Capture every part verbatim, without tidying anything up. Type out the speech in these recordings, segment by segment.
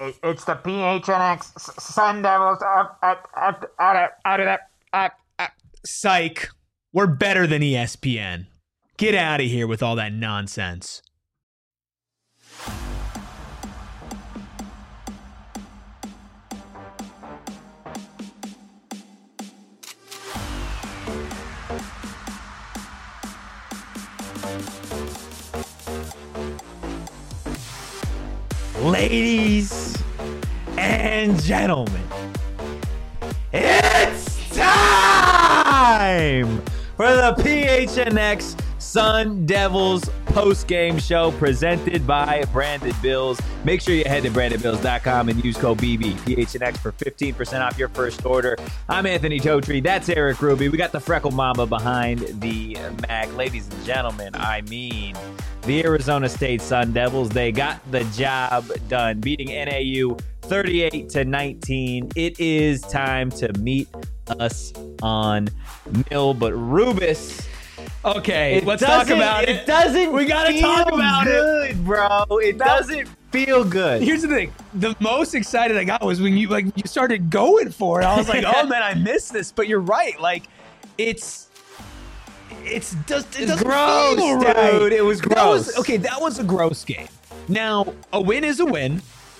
It, it's the P H N X Sun Devils up, up, up, out of, out of that. Up, up. Psych. We're better than E S P N. Get out of here with all that nonsense. Ladies and gentlemen, it's time for the P H N X Sun Devils post-game show presented by Branded Bills. Make sure you head to branded bills dot com and use code B B P H N X for fifteen percent off your first order. I'm Anthony Totri. That's Eric Ruby. We got the Freckle Mamba behind the mag. Ladies and gentlemen, I mean the Arizona State Sun Devils. They got the job done, beating N A U thirty-eight to nineteen. It is time to meet us on Mill, but Rubus. Okay, it let's talk about it. It doesn't. We gotta talk about good, it, bro. It that, doesn't feel good. Here's the thing: the most excited I got was when you like you started going for it. I was like, oh man, I missed this. But you're right. Like, it's. It's just it it's gross, feel dude. Right. It was gross. That was, okay, that was a gross game. Now, a win is a win.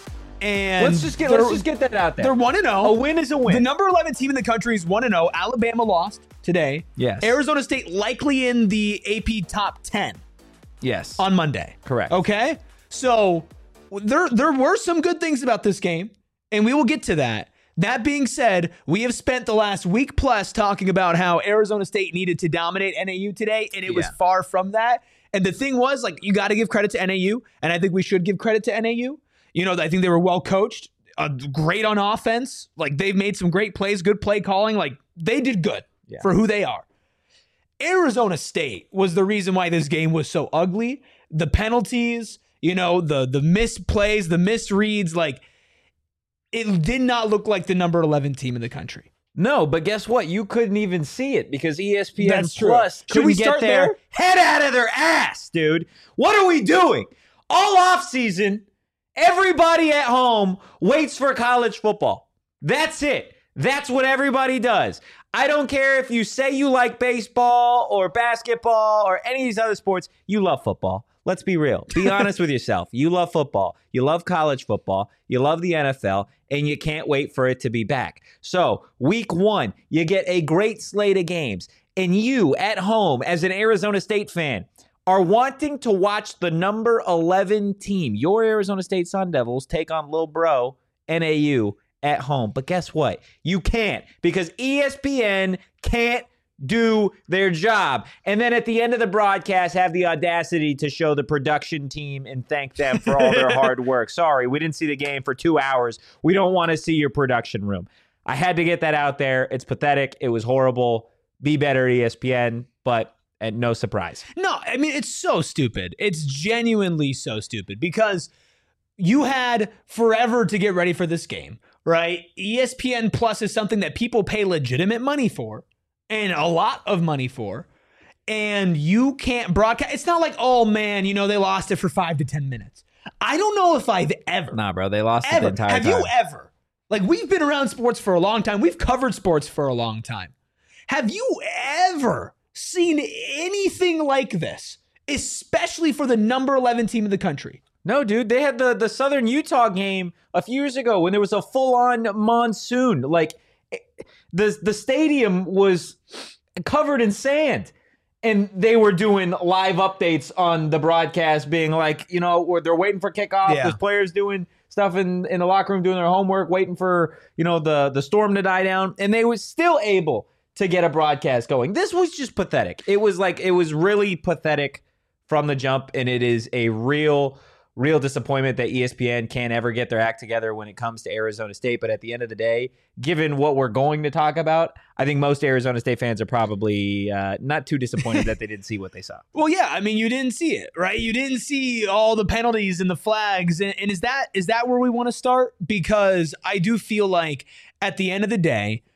And let's just get let's just get that out there. They're one and zero. A win is a win. The number eleven team in the country is one and zero. Alabama lost today. Yes. Arizona State likely in the A P top ten. Yes. On Monday. Correct. Okay. So there there were some good things about this game, and we will get to that. That being said, we have spent the last week plus talking about how Arizona State needed to dominate N A U today, and it was yeah. far from that. And the thing was, like, you got to give credit to N A U, and I think we should give credit to N A U. You know, I think they were well coached, uh, great on offense. Like, they've made some great plays, good play calling. Like, they did good yeah. for who they are. Arizona State was the reason why this game was so ugly. The penalties, you know, the the misplays, the misreads, like, it did not look like the number eleven team in the country. No, but guess what? You couldn't even see it because E S P N That's Plus true. Should we start get their there? head out of their ass, dude. What are we doing? All offseason, everybody at home waits for college football. That's it. That's what everybody does. I don't care if you say you like baseball or basketball or any of these other sports. You love football. Let's be real. Be honest with yourself. You love football. You love college football. You love the N F L, and you can't wait for it to be back. So week one, you get a great slate of games, and you at home as an Arizona State fan are wanting to watch the number eleven team, your Arizona State Sun Devils, take on Lil Bro N A U at home. But guess what? You can't because E S P N can't do their job. And then at the end of the broadcast, have the audacity to show the production team and thank them for all their hard work. Sorry, we didn't see the game for two hours. We don't want to see your production room. I had to get that out there. It's pathetic. It was horrible. Be better, E S P N, but and no surprise. No, I mean, it's so stupid. It's genuinely so stupid because you had forever to get ready for this game, right? E S P N Plus is something that people pay legitimate money for and a lot of money for, and you can't broadcast. It's not like, oh, man, you know, they lost it for five to ten minutes. I don't know if I've ever. Nah, bro, they lost ever, it the entire have time. Have you ever? Like, we've been around sports for a long time. We've covered sports for a long time. Have you ever seen anything like this, especially for the number eleven team in the country? No, dude, they had the, the Southern Utah game a few years ago when there was a full-on monsoon. Like, the, the stadium was covered in sand, and they were doing live updates on the broadcast being like, you know, where they're waiting for kickoff. Yeah. There's players doing stuff in, in the locker room doing their homework, waiting for, you know, the, the storm to die down, and they were still able to get a broadcast going. This was just pathetic. It was like, it was really pathetic from the jump, and it is a real, real disappointment that E S P N can't ever get their act together when it comes to Arizona State. But at the end of the day, given what we're going to talk about, I think most Arizona State fans are probably uh, not too disappointed that they didn't see what they saw. Well, yeah, I mean, you didn't see it, right? You didn't see all the penalties and the flags. And, and is that is that where we want to start? Because I do feel like at the end of the day,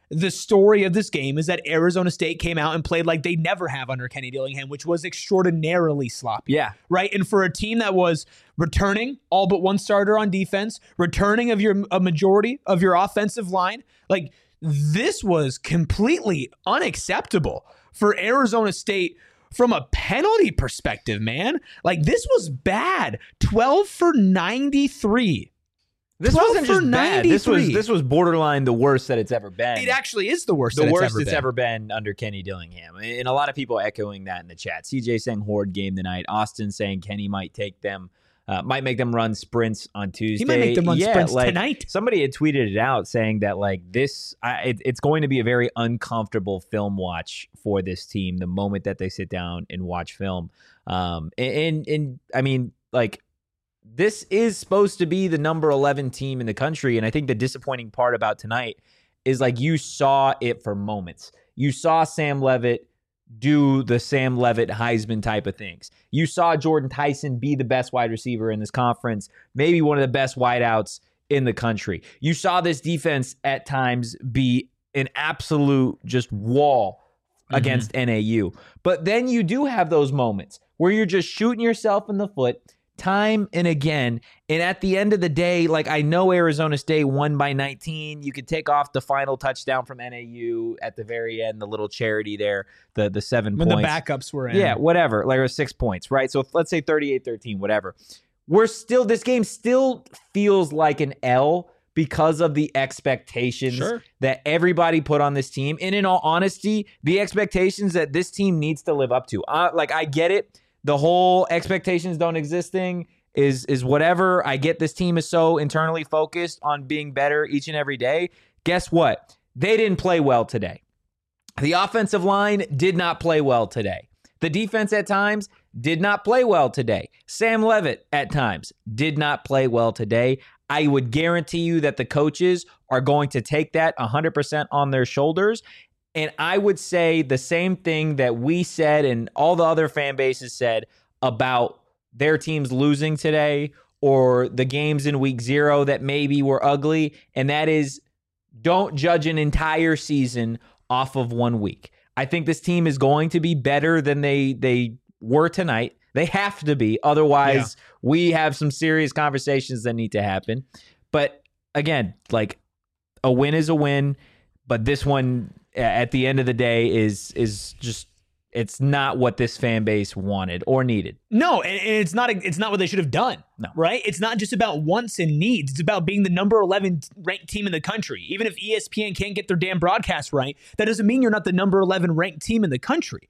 the story of this game is that Arizona State came out and played like they never have under Kenny Dillingham, which was extraordinarily sloppy. Yeah. Right? And for a team that was returning all but one starter on defense, returning of your a majority of your offensive line, like this was completely unacceptable for Arizona State from a penalty perspective, man. Like this was bad. twelve for ninety-three. This wasn't just bad. This was this was borderline the worst that it's ever been. It actually is the worst. The that worst it's, ever, it's been. ever been under Kenny Dillingham, and a lot of people echoing that in the chat. C J saying horde game tonight. Austin saying Kenny might take them, uh, might make them run sprints on Tuesday. He might make them run yeah, sprints like, tonight. Somebody had tweeted it out saying that like this, I, it, it's going to be a very uncomfortable film watch for this team the moment that they sit down and watch film. Um, and and, and I mean like. This is supposed to be the number eleven team in the country. And I think the disappointing part about tonight is like you saw it for moments. You saw Sam Levitt do the Sam Levitt Heisman type of things. You saw Jordan Tyson be the best wide receiver in this conference, maybe one of the best wideouts in the country. You saw this defense at times be an absolute just wall mm-hmm. against N A U. But then you do have those moments where you're just shooting yourself in the foot time and again. And at the end of the day, like I know Arizona State won by nineteen. You could take off the final touchdown from N A U at the very end, the little charity there, the the seven when points. When the backups were in. Yeah, whatever. Like it was six points, right? So let's say thirty-eight thirteen, whatever. We're still, this game still feels like an L because of the expectations sure. that everybody put on this team. And in all honesty, the expectations that this team needs to live up to. Uh, like I get it. The whole expectations don't exist thing is is whatever. I get this team is so internally focused on being better each and every day. Guess what? They didn't play well today. The offensive line did not play well today. The defense at times did not play well today. Sam Levitt at times did not play well today. I would guarantee you that the coaches are going to take that one hundred percent on their shoulders. And I would say the same thing that we said and all the other fan bases said about their teams losing today or the games in week zero that maybe were ugly. And that is, don't judge an entire season off of one week. I think this team is going to be better than they they were tonight. They have to be. Otherwise, yeah. we have some serious conversations that need to happen. But again, like a win is a win. But this one, at the end of the day, is is just it's not what this fan base wanted or needed. No, and it's not it's not what they should have done. No. Right? It's not just about wants and needs. It's about being the number eleven ranked team in the country. Even if E S P N can't get their damn broadcast right, that doesn't mean you're not the number eleven ranked team in the country.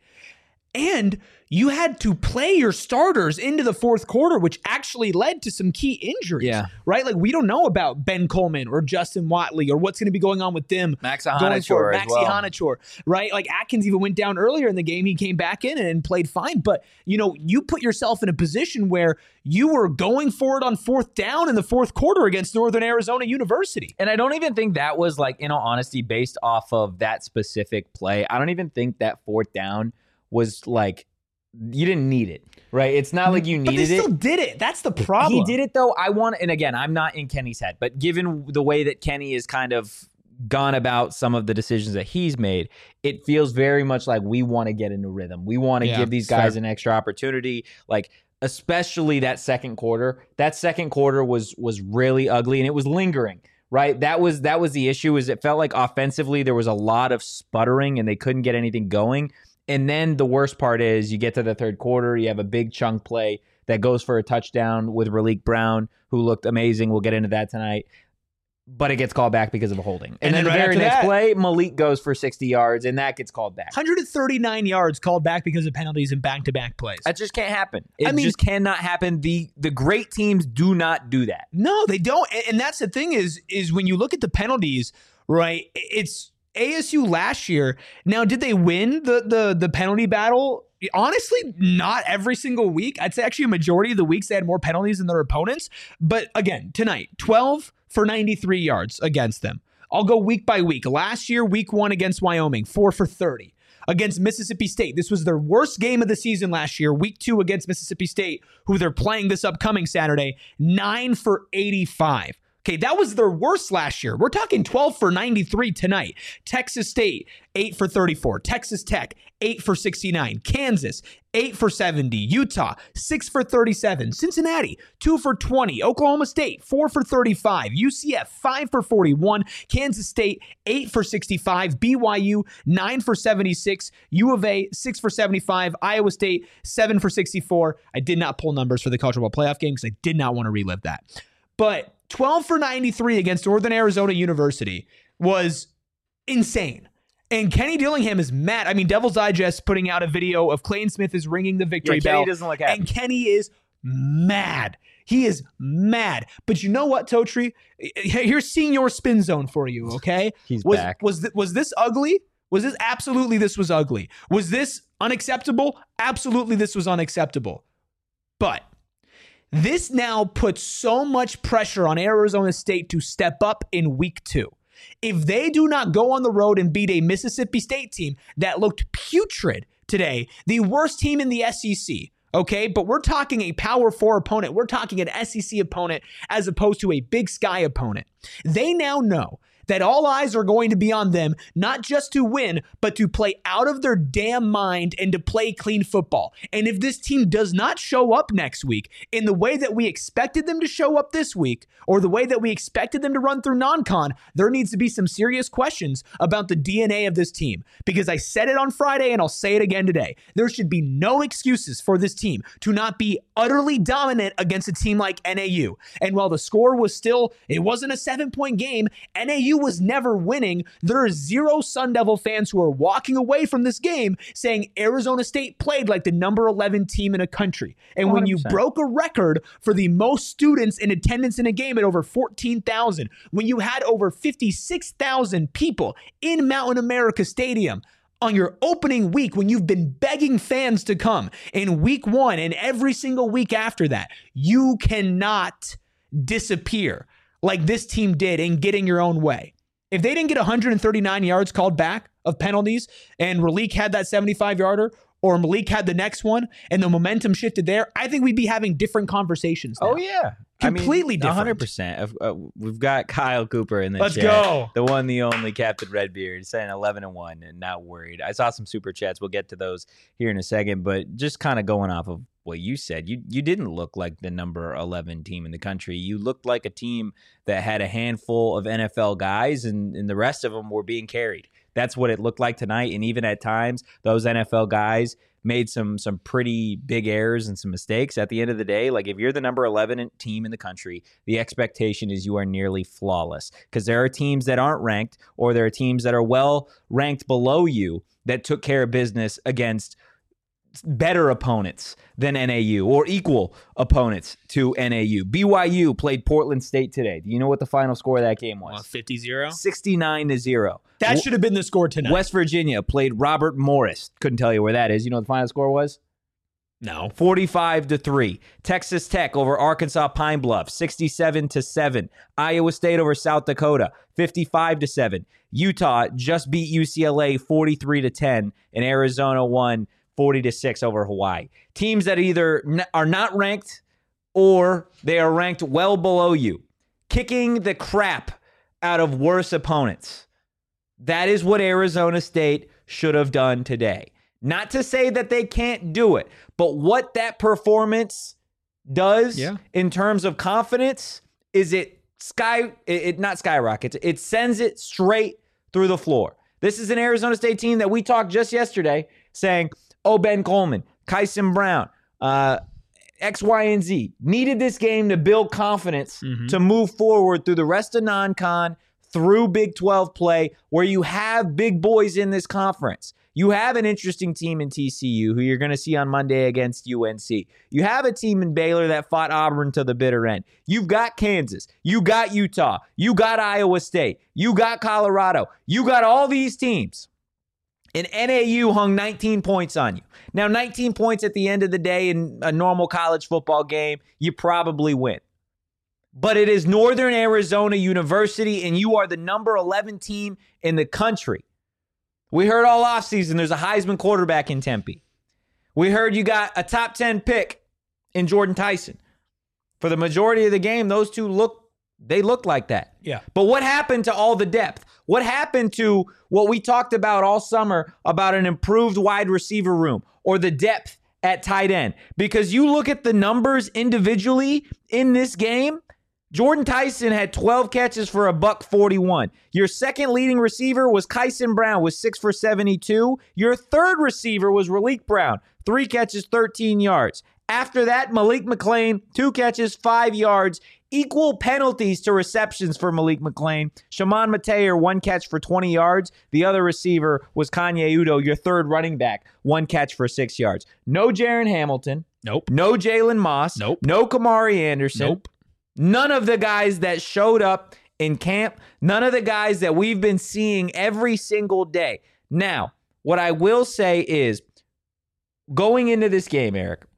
And you had to play your starters into the fourth quarter, which actually led to some key injuries. Yeah. Right? Like, we don't know about Ben Coleman or Justin Watley or what's going to be going on with them. Max going forward. Ihanachor as Maxi well. Ihanachor, right? Like, Atkins even went down earlier in the game. He came back in and played fine. But, you know, you put yourself in a position where you were going for it on fourth down in the fourth quarter against Northern Arizona University. And I don't even think that was, like, in all honesty, based off of that specific play. I don't even think that fourth down was, like, you didn't need it, right? It's not like you needed it. But they still it. did it. That's the problem. He did it, though. I want, and again, I'm not in Kenny's head, but given the way that Kenny has kind of gone about some of the decisions that he's made, it feels very much like we want to get into rhythm. We want to Yeah, give these guys fair. an extra opportunity, like especially that second quarter. That second quarter was was really ugly, and it was lingering. Right, that was that was the issue. Is it felt like offensively there was a lot of sputtering, and they couldn't get anything going. And then the worst part is you get to the third quarter, you have a big chunk play that goes for a touchdown with Raleek Brown, who looked amazing. We'll get into that tonight. But it gets called back because of a holding. And, And then, then the right very after next that- play, Malik goes for sixty yards, and that gets called back. one hundred thirty-nine yards called back because of penalties and back-to-back plays. That just can't happen. It I mean- just cannot happen. The the great teams do not do that. No, they don't. And- And that's the thing is, is when you look at the penalties, right, it's A S U last year. Now, did they win the the the penalty battle? Honestly, not every single week. I'd say actually a majority of the weeks they had more penalties than their opponents. But again, tonight, twelve for ninety-three yards against them. I'll go week by week. Last year, week one against Wyoming, four for thirty. Against Mississippi State, this was their worst game of the season last year. Week two against Mississippi State, who they're playing this upcoming Saturday, nine for eighty-five. Okay, that was their worst last year. We're talking twelve for ninety-three tonight. Texas State, eight for thirty-four. Texas Tech, eight for sixty-nine. Kansas, eight for seventy. Utah, six for thirty-seven. Cincinnati, two for twenty. Oklahoma State, four for thirty-five. U C F, five for forty-one. Kansas State, eight for sixty-five. B Y U, nine for seventy-six. U of A, six for seventy-five. Iowa State, seven for sixty-four. I did not pull numbers for the college football playoff game because I did not want to relive that. But twelve for ninety-three against Northern Arizona University was insane. And Kenny Dillingham is mad. I mean, Devil's Digest putting out a video of Clayton Smith is ringing the victory Yeah, Kenny bell. doesn't look happy. And Kenny is mad. He is mad. But you know what, Totri? Here's Senior Spin Zone for you, okay? He's was, back. Was, th- was this ugly? Was this absolutely this was ugly? Was this unacceptable? Absolutely this was unacceptable. But this now puts so much pressure on Arizona State to step up in week two. If they do not go on the road and beat a Mississippi State team that looked putrid today, the worst team in the S E C, okay? But we're talking a Power Four opponent. We're talking an S E C opponent as opposed to a Big Sky opponent. They now know that all eyes are going to be on them, not just to win, but to play out of their damn mind and to play clean football. And if this team does not show up next week in the way that we expected them to show up this week, or the way that we expected them to run through non-con, there needs to be some serious questions about the D N A of this team. Because I said it on Friday and I'll say it again today. There should be no excuses for this team to not be utterly dominant against a team like N A U. And while the score was still, it wasn't a seven-point game, N A U was never winning. There are zero Sun Devil fans who are walking away from this game saying Arizona State played like the number eleven team in a country. And when you one hundred percent. broke a record for the most students in attendance in a game at over fourteen thousand, when you had over fifty-six thousand people in Mountain America Stadium on your opening week, when you've been begging fans to come in week one and every single week after that, you cannot disappear like this team did in getting your own way. If they didn't get one hundred thirty-nine yards called back of penalties and Raleek had that seventy-five yarder or Malik had the next one and the momentum shifted there, I think we'd be having different conversations now. Oh, yeah. Completely I mean, different. one hundred percent. Uh, we've got Kyle Cooper in the Let's chat. go. The one, the only Captain Redbeard saying eleven and one and not worried. I saw some super chats. We'll get to those here in a second. But just kind of going off of what you said, you you didn't look like the number eleven team in the country. You looked like a team that had a handful of N F L guys, and, and the rest of them were being carried. That's what it looked like tonight. And even at times, those N F L guys made some some pretty big errors and some mistakes. At the end of the day, like if you're the number eleven team in the country, the expectation is you are nearly flawless, because there are teams that aren't ranked, or there are teams that are well ranked below you that took care of business against better opponents than N A U or equal opponents to N A U. B Y U played Portland State today. Do you know what the final score of that game was? fifty zero sixty-nine to zero. That should have been the score tonight. West Virginia played Robert Morris. Couldn't tell you where that is. You know what the final score was? No. forty-five to three. Texas Tech over Arkansas Pine Bluff, sixty-seven to seven. Iowa State over South Dakota, fifty-five to seven. Utah just beat U C L A forty-three to ten, and Arizona won forty to six over Hawaii. Teams that either n- are not ranked or they are ranked well below you, kicking the crap out of worse opponents. That is what Arizona State should have done today. Not to say that they can't do it, but what that performance does Yeah. in terms of confidence is it sky it, it not skyrockets. It sends it straight through the floor. This is an Arizona State team that we talked just yesterday saying, oh, Ben Coleman, Kyson Brown, uh, X, Y, and Z needed this game to build confidence Mhm. to move forward through the rest of non-con, through Big twelve play, where you have big boys in this conference. You have an interesting team in T C U who you're going to see on Monday against U N C. You have a team in Baylor that fought Auburn to the bitter end. You've got Kansas. You got Utah. You got Iowa State. You got Colorado. You got all these teams. And N A U hung nineteen points on you. Now, nineteen points at the end of the day in a normal college football game, you probably win. But it is Northern Arizona University, and you are the number eleven team in the country. We heard all offseason there's a Heisman quarterback in Tempe. We heard you got a top ten pick in Jordan Tyson. For the majority of the game, those two look They looked like that. Yeah. But what happened to all the depth? What happened to what we talked about all summer about an improved wide receiver room or the depth at tight end? Because you look at the numbers individually in this game, Jordan Tyson had twelve catches for a buck forty-one. Your second leading receiver was Kyson Brown with six for seventy-two. Your third receiver was Raleek Brown, three catches, thirteen yards. After that, Malik McClain, two catches, five yards. Equal penalties to receptions for Malik McClain. Shimon Mateer, one catch for twenty yards. The other receiver was Kanye Udo, your third running back, one catch for six yards. No Jaron Hamilton. Nope. No Jalen Moss. Nope. No Kamari Anderson. Nope. None of the guys that showed up in camp. None of the guys that we've been seeing every single day. Now, what I will say is, going into this game, Eric,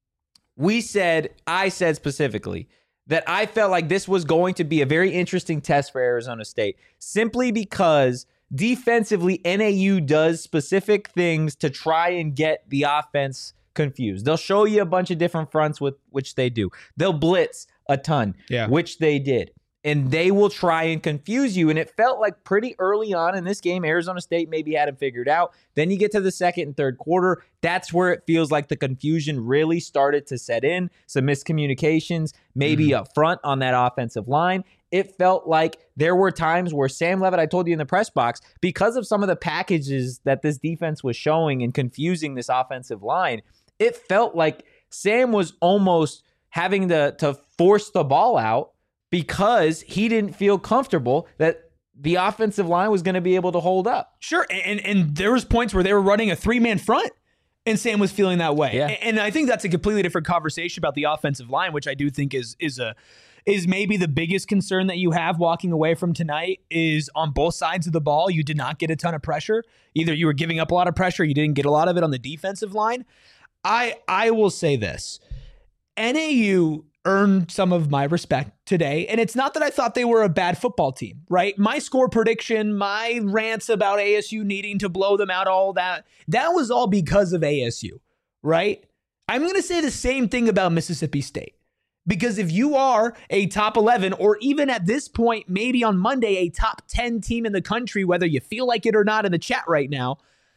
we said, I said specifically, that I felt like this was going to be a very interesting test for Arizona State, simply because defensively, N A U does specific things to try and get the offense confused. They'll show you a bunch of different fronts, with which they do. They'll blitz a ton, Yeah. which they did. And they will try and confuse you. And it felt like pretty early on in this game, Arizona State maybe had it figured out. Then you get to the second and third quarter. That's where it feels like the confusion really started to set in. Some miscommunications, maybe Mm-hmm. up front on that offensive line. It felt like there were times where Sam Levitt, I told you in the press box, because of some of the packages that this defense was showing and confusing this offensive line, it felt like Sam was almost having to, to force the ball out because he didn't feel comfortable that the offensive line was going to be able to hold up. Sure, and and there was points where they were running a three-man front, and Sam was feeling that way. Yeah. And I think that's a completely different conversation about the offensive line, which I do think is is a is maybe the biggest concern that you have walking away from tonight. Is on both sides of the ball, you did not get a ton of pressure. Either you were giving up a lot of pressure, you didn't get a lot of it on the defensive line. I I will say this. N A U earned some of my respect today. And it's not that I thought they were a bad football team, right? My score prediction, my rants about A S U needing to blow them out, all that, that was all because of A S U, right? I'm going to say the same thing about Mississippi State. Because if you are a top eleven, or even at this point, maybe on Monday, a top ten team in the country, whether you feel like it or not in the chat right now,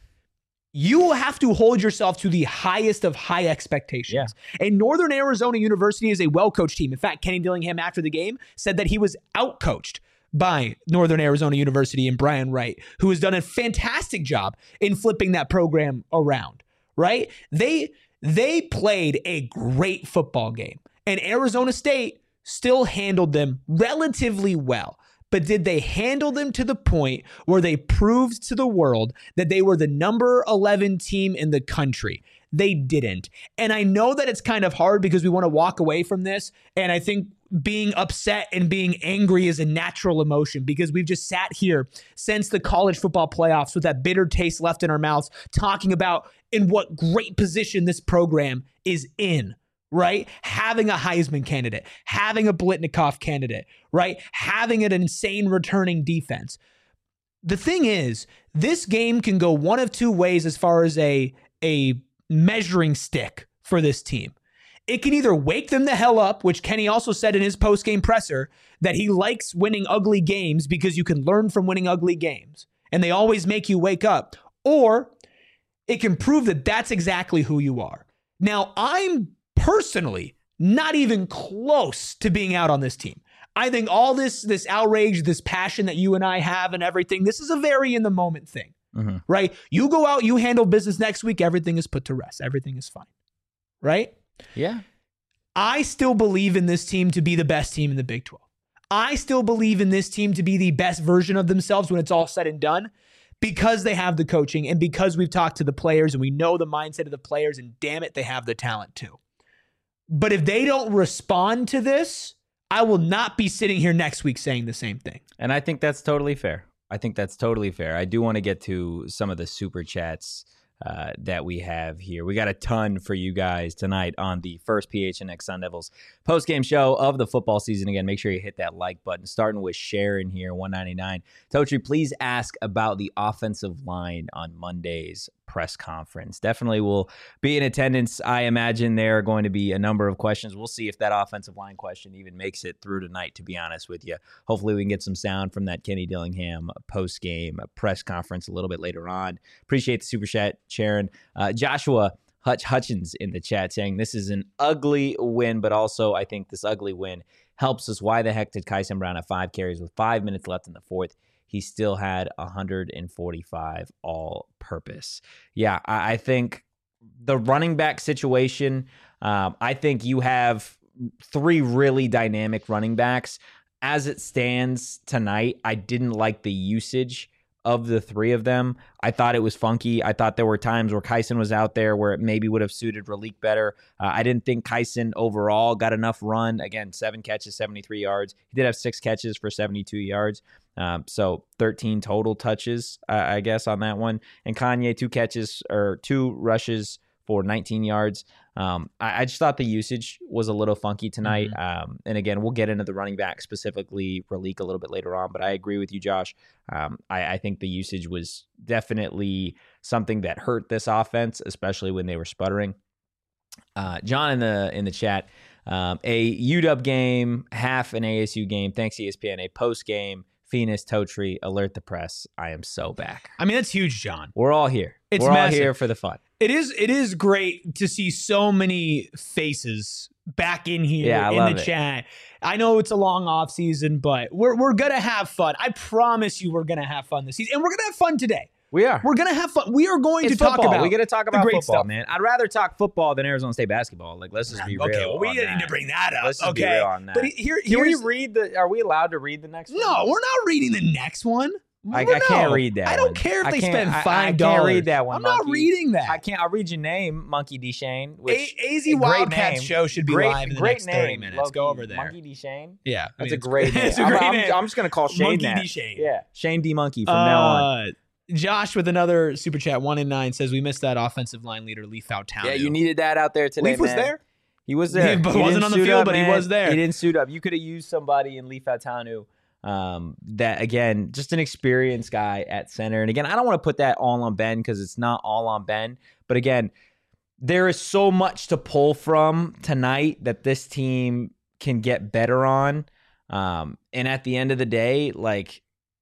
you have to hold yourself to the highest of high expectations. Yeah. And Northern Arizona University is a well-coached team. In fact, Kenny Dillingham after the game said that he was out-coached by Northern Arizona University and Brian Wright, who has done a fantastic job in flipping that program around, right? They, they played a great football game, and Arizona State still handled them relatively well. But did they handle them to the point where they proved to the world that they were the number eleven team in the country? They didn't. And I know that it's kind of hard because we want to walk away from this. And I think being upset and being angry is a natural emotion, because we've just sat here since the college football playoffs with that bitter taste left in our mouths, talking about in what great position this program is in. Right? Having a Heisman candidate, having a Blitnikoff candidate, right? Having an insane returning defense. The thing is, this game can go one of two ways as far as a, a measuring stick for this team. It can either wake them the hell up, which Kenny also said in his post-game presser, that he likes winning ugly games because you can learn from winning ugly games, and they always make you wake up. Or it can prove that that's exactly who you are. Now, I'm personally not even close to being out on this team. I think all this this outrage, this passion that you and I have and everything, this is a very in the moment thing, mm-hmm. right? You go out, you handle business next week, everything is put to rest. Everything is fine, right? Yeah. I still believe in this team to be the best team in the Big twelve. I still believe in this team to be the best version of themselves when it's all said and done, because they have the coaching and because we've talked to the players and we know the mindset of the players, and damn it, they have the talent too. But if they don't respond to this, I will not be sitting here next week saying the same thing. And I think that's totally fair. I think that's totally fair. I do want to get to some of the super chats uh, that we have here. We got a ton for you guys tonight on the first P H N X Sun Devils post-game show of the football season. Again, make sure you hit that like button. Starting with Sharon here, one ninety-nine. Totri, please ask about the offensive line on Monday's press conference. Definitely will be in attendance. I imagine there are going to be a number of questions. We'll see if that offensive line question even makes it through tonight, to be honest with you. Hopefully we can get some sound from that Kenny Dillingham post-game press conference a little bit later on. Appreciate the super chat, Sharon. Uh, Joshua Hutch Hutchins in the chat saying this is an ugly win, but also I think this ugly win helps us. Why the heck did Kyson Brown have five carries with five minutes left in the fourth? He still had one hundred forty-five all-purpose. Yeah, I, I think the running back situation, um, I think you have three really dynamic running backs. As it stands tonight, I didn't like the usage of the three of them. I thought it was funky. I thought there were times where Kyson was out there where it maybe would have suited Raleek better. Uh, I didn't think Kyson overall got enough run. Again, seven catches, seventy-three yards. He did have six catches for seventy-two yards. Um, so thirteen total touches, uh, I guess, on that one. And Kanye, two catches or two rushes for nineteen yards. Um, I, I just thought the usage was a little funky tonight. Mm-hmm. Um, and again, we'll get into the running back, specifically Raleek, a little bit later on. But I agree with you, Josh. Um, I, I think the usage was definitely something that hurt this offense, especially when they were sputtering. Uh, John in the in the chat, um, a U W game, half an A S U game. Thanks, E S P N. A post game. Phoenix, Totri, alert the press. I am so back. I mean, that's huge, John. We're all here. It's We're massive. all here for the fun. It is It is great to see so many faces back in here Yeah, I in love the it. chat. I know it's a long off season, but we're we're gonna have fun. I promise you, we're gonna have fun this season, and we're gonna have fun today. We are. We're gonna have fun. We are going It's to talk football. about. We got to talk the about great football, stuff. man. I'd rather talk football than Arizona State basketball. Like, let's just be real. Okay, well, we on didn't need that. to bring that up. Let's just okay, be real on that. but here, Can we here's read the? Are we allowed to read the next one? no. We're not reading the next one. I, We're I can't no. read that. I don't one. care if I they can't- spend I- five I dollars. can't read that one. I'm not Monkey. reading that. I can't. I'll read your name, Monkey D. Shane. Which A- AZ great Wildcats name. show should be great, live in the great next thirty name, minutes. low-key. Go over there. Monkey D. Shane. Yeah, I That's mean, a great name. It's a I'm, great I'm, name. I'm just gonna call Shane Monkey that. D. Shane. Yeah, Shane D. Monkey from now on. Uh, Josh with another super chat, one in nine, says we missed that offensive line leader, Leaf Fautanu. Yeah, you needed that out there today. Leaf was man. there. He was there. He but He wasn't didn't on the suit field, up, but he man. was there. He didn't suit up. You could have used somebody in Leaf Fautanu. Um, that again, just an experienced guy at center. And again, I don't want to put that all on Ben because it's not all on Ben. But again, there is so much to pull from tonight that this team can get better on. Um, and at the end of the day, like,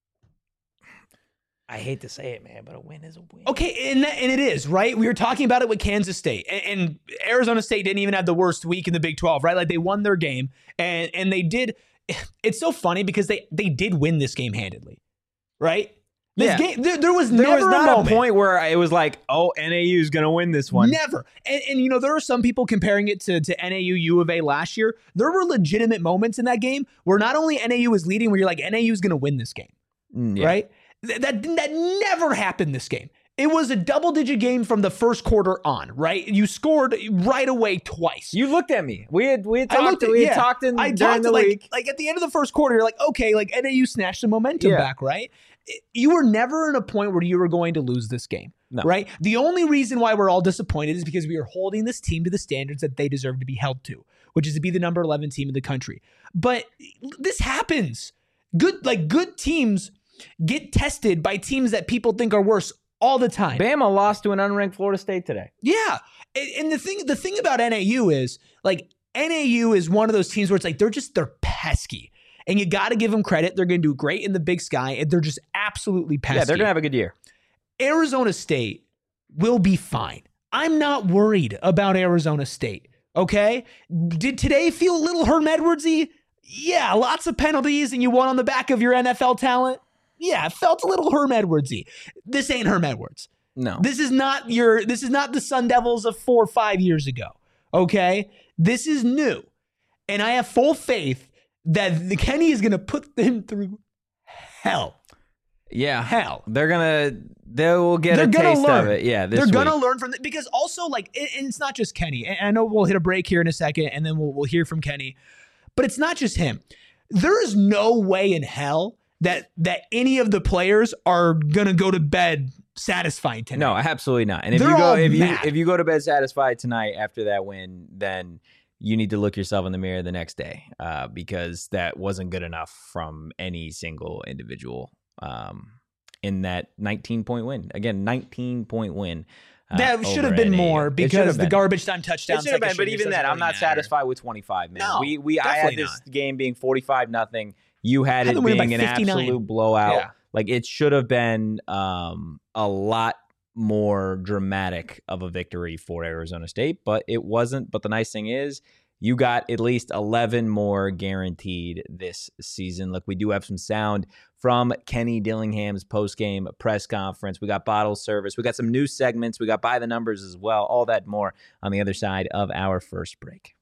I hate to say it, man, but a win is a win. Okay, and, that, and it is, right? We were talking about it with Kansas State, and, and Arizona State didn't even have the worst week in the Big twelve, right? Like, they won their game, and and they did. It's so funny because they they did win this game handedly, right? This Yeah. game, there, there was There never was not a a, moment. point where it was like, oh, N A U is going to win this one. Never. And, and, you know, there are some people comparing it to, to N A U U of A last year. There were legitimate moments in that game where not only N A U was leading, where you're like, N A U is going to win this game, Mm, yeah. right? Th- That, that never happened this game. It was a double-digit game from the first quarter on, right? You scored right away twice. You looked at me. We had we had I talked. looked at- we had yeah. talked in I during talked the like, week. like at the end of the first quarter, you're like, okay, like N A U snatched the momentum Yeah. back, right? It- You were never in a point where you were going to lose this game, No. right? The only reason why we're all disappointed is because we are holding this team to the standards that they deserve to be held to, which is to be the number eleven team in the country. But this happens. Good, like good teams get tested by teams that people think are worse all the time. Bama lost to an unranked Florida State today. Yeah. And, and the thing the thing about N A U is like N A U is one of those teams where it's like they're just they're pesky. And you got to give them credit. They're going to do great in the Big Sky and they're just absolutely pesky. Yeah, they're gonna have a good year. Arizona State will be fine. I'm not worried about Arizona State. Okay? Did today feel a little Herm Edwardsy? Yeah, lots of penalties and you won on the back of your N F L talent. Yeah, it felt a little Herm Edwardsy. This ain't Herm Edwards. No, This is not your this is not the Sun Devils of four or five years ago. Okay? This is new. And I have full faith that the Kenny is gonna put them through hell. yeah, Hell. they're gonna they will get They're a gonna taste learn. of it. Yeah, this They're gonna week. learn from it because also like and and it's not just Kenny. And I know we'll hit a break here in a second and then we'll we'll hear from Kenny. But it's not just him. There is no way in hell that that any of the players are gonna go to bed satisfied tonight. No, absolutely not. And if They're you go all if you mad. if you go to bed satisfied tonight after that win, then you need to look yourself in the mirror the next day uh, because that wasn't good enough from any single individual. Um, in that nineteen point win. Again, nineteen point win. Uh, That should have over been N A U. more It should because have the been. garbage time touchdown. It should have been, but even then, I'm not satisfied with twenty-five, man. No, we we I had definitely this game being forty-five nothing. You had Had it them winning being by an fifty-nine. absolute blowout. Yeah. Like it should have been um, a lot more dramatic of a victory for Arizona State, but it wasn't. But the nice thing is, you got at least eleven more guaranteed this season. Look, we do have some sound from Kenny Dillingham's post-game press conference. We got bottle service. We got some new segments. We got by the numbers as well. All that more on the other side of our first break.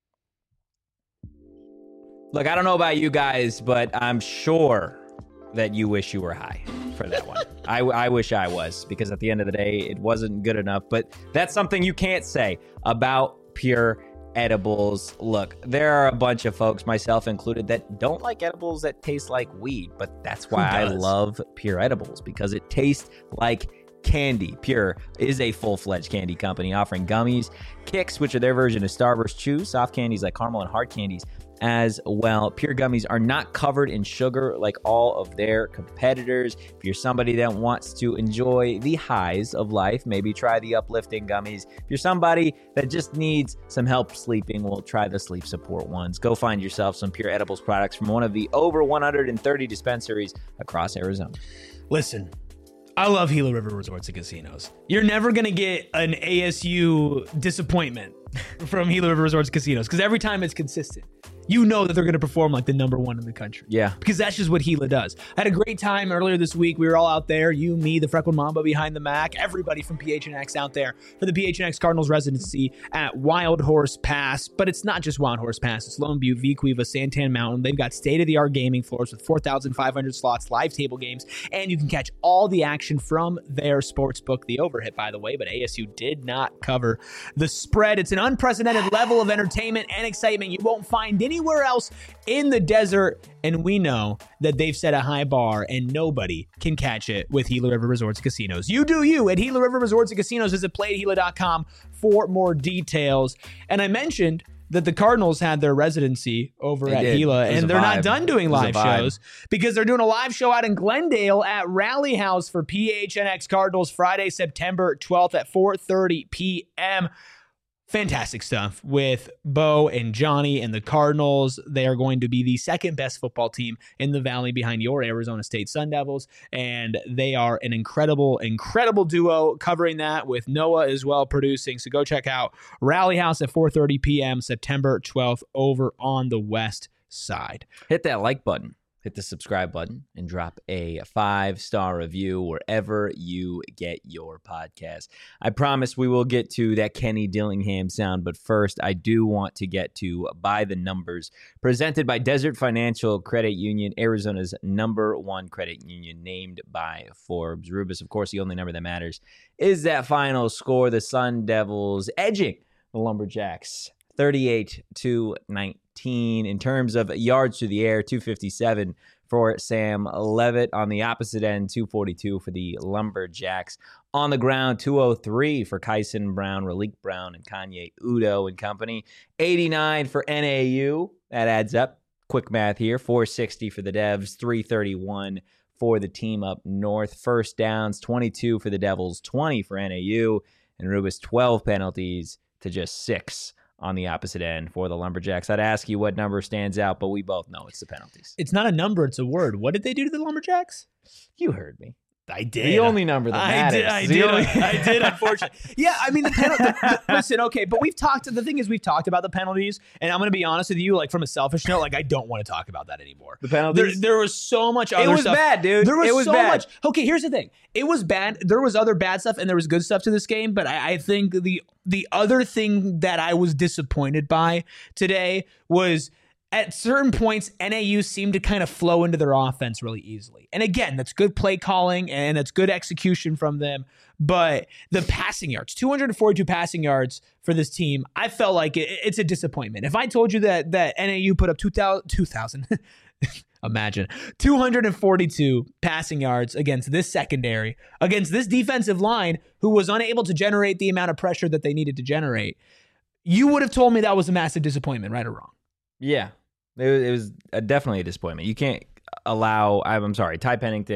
Look, I don't know about you guys, but I'm sure that you wish you were high for that one. I, I wish I was, because at the end of the day, it wasn't good enough. But that's something you can't say about Pure Edibles. Look, there are a bunch of folks, myself included, that don't like edibles that taste like weed, but that's why I love Pure Edibles, because it tastes like candy. Pure is a full-fledged candy company offering gummies, kicks, which are their version of Starburst chew, soft candies like caramel, and hard candies as well. Pure gummies are not covered in sugar like all of their competitors. If you're somebody that wants to enjoy the highs of life, maybe try the uplifting gummies. If you're somebody that just needs some help sleeping, well, try the sleep support ones. Go find yourself some Pure Edibles products from one of the over one hundred thirty dispensaries across Arizona. Listen, I love Gila River Resorts and Casinos. You're never going to get an A S U disappointment from Gila River Resorts and Casinos, because every time it's consistent. You know that they're going to perform like the number one in the country. Yeah. Because that's just what Gila does. I had a great time earlier this week. We were all out there. You, me, the Freckled Mamba behind the Mac, everybody from P H N X out there for the P H N X Cardinals residency at Wild Horse Pass. But it's not just Wild Horse Pass. It's Lone Butte, Vequiva, Santan Mountain. They've got state-of-the-art gaming floors with four thousand five hundred slots, live table games, and you can catch all the action from their sports book. The overhit, by the way, but A S U did not cover the spread. It's an unprecedented level of entertainment and excitement you won't find anywhere else in the desert, and we know that they've set a high bar and nobody can catch it with Gila River Resorts and Casinos. You do you at Gila River Resorts and Casinos. Visit play at gila dot com for more details. And I mentioned that the Cardinals had their residency over They at did. Gila, It was and a they're not vibe. done doing It was a live vibe. shows because they're doing a live show out in Glendale at Rally House for P H N X Cardinals Friday, September twelfth at four thirty p.m. Fantastic stuff with Bo and Johnny and the Cardinals. They are going to be the second best football team in the Valley behind your Arizona State Sun Devils. And they are an incredible, incredible duo covering that with Noah as well producing. So go check out Rally House at four thirty p.m. September twelfth over on the west side. Hit that like button, hit the subscribe button, and drop a five-star review wherever you get your podcast. I promise we will get to that Kenny Dillingham sound, but first I do want to get to By the Numbers, presented by Desert Financial Credit Union, Arizona's number one credit union, named by Forbes. Rubus, of course, the only number that matters is that final score. The Sun Devils edging the Lumberjacks thirty-eight to nineteen. In terms of yards to the air, two fifty-seven for Sam Levitt. On the opposite end, two forty-two for the Lumberjacks. On the ground, two oh three for Kyson Brown, Ralik Brown, and Kanye Udo and company. eighty-nine for N A U. That adds up. Quick math here. four sixty for the Devs, three thirty-one for the team up north. First downs, twenty-two for the Devils, twenty for N A U. And Rubus, twelve penalties to just six on the opposite end for the Lumberjacks. I'd ask you what number stands out, but we both know it's the penalties. It's not a number, it's a word. What did they do to the Lumberjacks? You heard me. I did. The only number that I matters. did. I The did. only- I did. Unfortunately, yeah. I mean, the penalty. the, the, listen, okay, but we've talked. The thing is, we've talked about the penalties, and I'm going to be honest with you. Like from a selfish note, like I don't want to talk about that anymore. The There, penalties? there was so much other it was stuff. bad, dude. There was, it was so bad. much. Okay, here's the thing. It was bad. There was other bad stuff, and there was good stuff to this game. But I, I think the the other thing that I was disappointed by today was, at certain points, N A U seemed to kind of flow into their offense really easily. And again, that's good play calling and that's good execution from them. But the passing yards, two hundred forty-two passing yards for this team, I felt like it, it's a disappointment. If I told you that that N A U put up two thousand, two thousand imagine, two hundred forty-two passing yards against this secondary, against this defensive line who was unable to generate the amount of pressure that they needed to generate, you would have told me that was a massive disappointment, right or wrong. Yeah, it was, it was a, definitely a disappointment. You can't allow, I'm, I'm sorry, Ty Pennington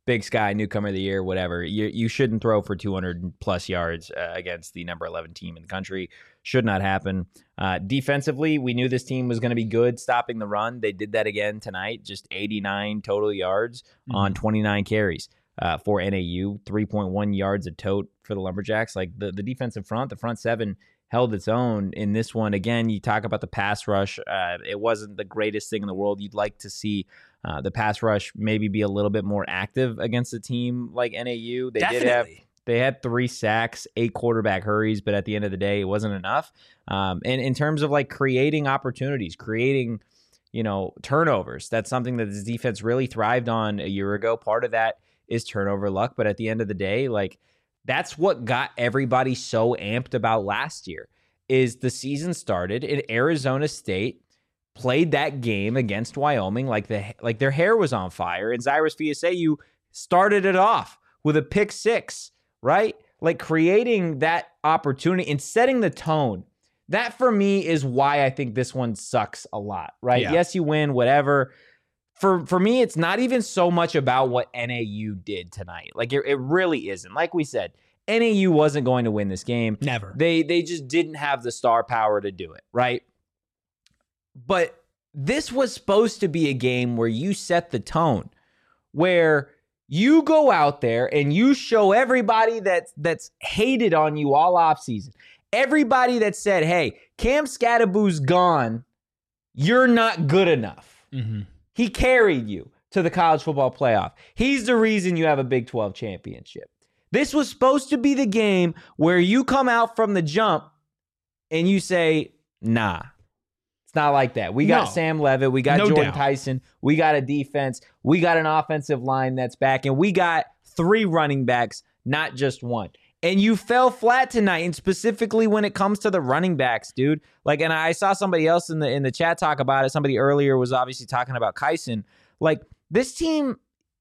Big Sky, newcomer of the year, whatever. You you shouldn't throw for two hundred plus yards uh, against the number eleven team in the country. Should not happen. Uh, defensively, we knew this team was going to be good stopping the run. They did that again tonight, just eighty-nine total yards mm-hmm. on twenty-nine carries uh, for N A U, three point one yards a tote for the Lumberjacks. Like the, the defensive front, the front seven held its own in this one. Again, you talk about the pass rush. Uh, it wasn't the greatest thing in the world. You'd like to see uh, the pass rush maybe be a little bit more active against a team like N A U. They Definitely. did have they had three sacks, eight quarterback hurries, but at the end of the day, it wasn't enough. Um, and in terms of like creating opportunities, creating you know turnovers, that's something that this defense really thrived on a year ago. Part of that is turnover luck, but at the end of the day, like. That's what got everybody so amped about last year is the season started and Arizona State played that game against Wyoming like the like their hair was on fire, and Cyrus Fiasayu started it off with a pick six, right? Like creating that opportunity and setting the tone. That for me is why I think this one sucks a lot, right? Yeah. Yes, you win, whatever. For for me, it's not even so much about what N A U did tonight. Like, it, it really isn't. Like we said, N A U wasn't going to win this game. Never. They they just didn't have the star power to do it, right? But this was supposed to be a game where you set the tone, where you go out there and you show everybody that, that's hated on you all offseason, everybody that said, hey, Cam Scadaboo's gone, you're not good enough. Mm-hmm. He carried you to the college football playoff. He's the reason you have a Big twelve championship. This was supposed to be the game where you come out from the jump and you say, nah, it's not like that. We got No. Sam Levitt. We got No Jordan doubt. Tyson. We got a defense. We got an offensive line that's back. And we got three running backs, not just one. And you fell flat tonight, and specifically when it comes to the running backs, dude. Like, and I saw somebody else in the in the chat talk about it. Somebody earlier was obviously talking about Kyson. Like, this team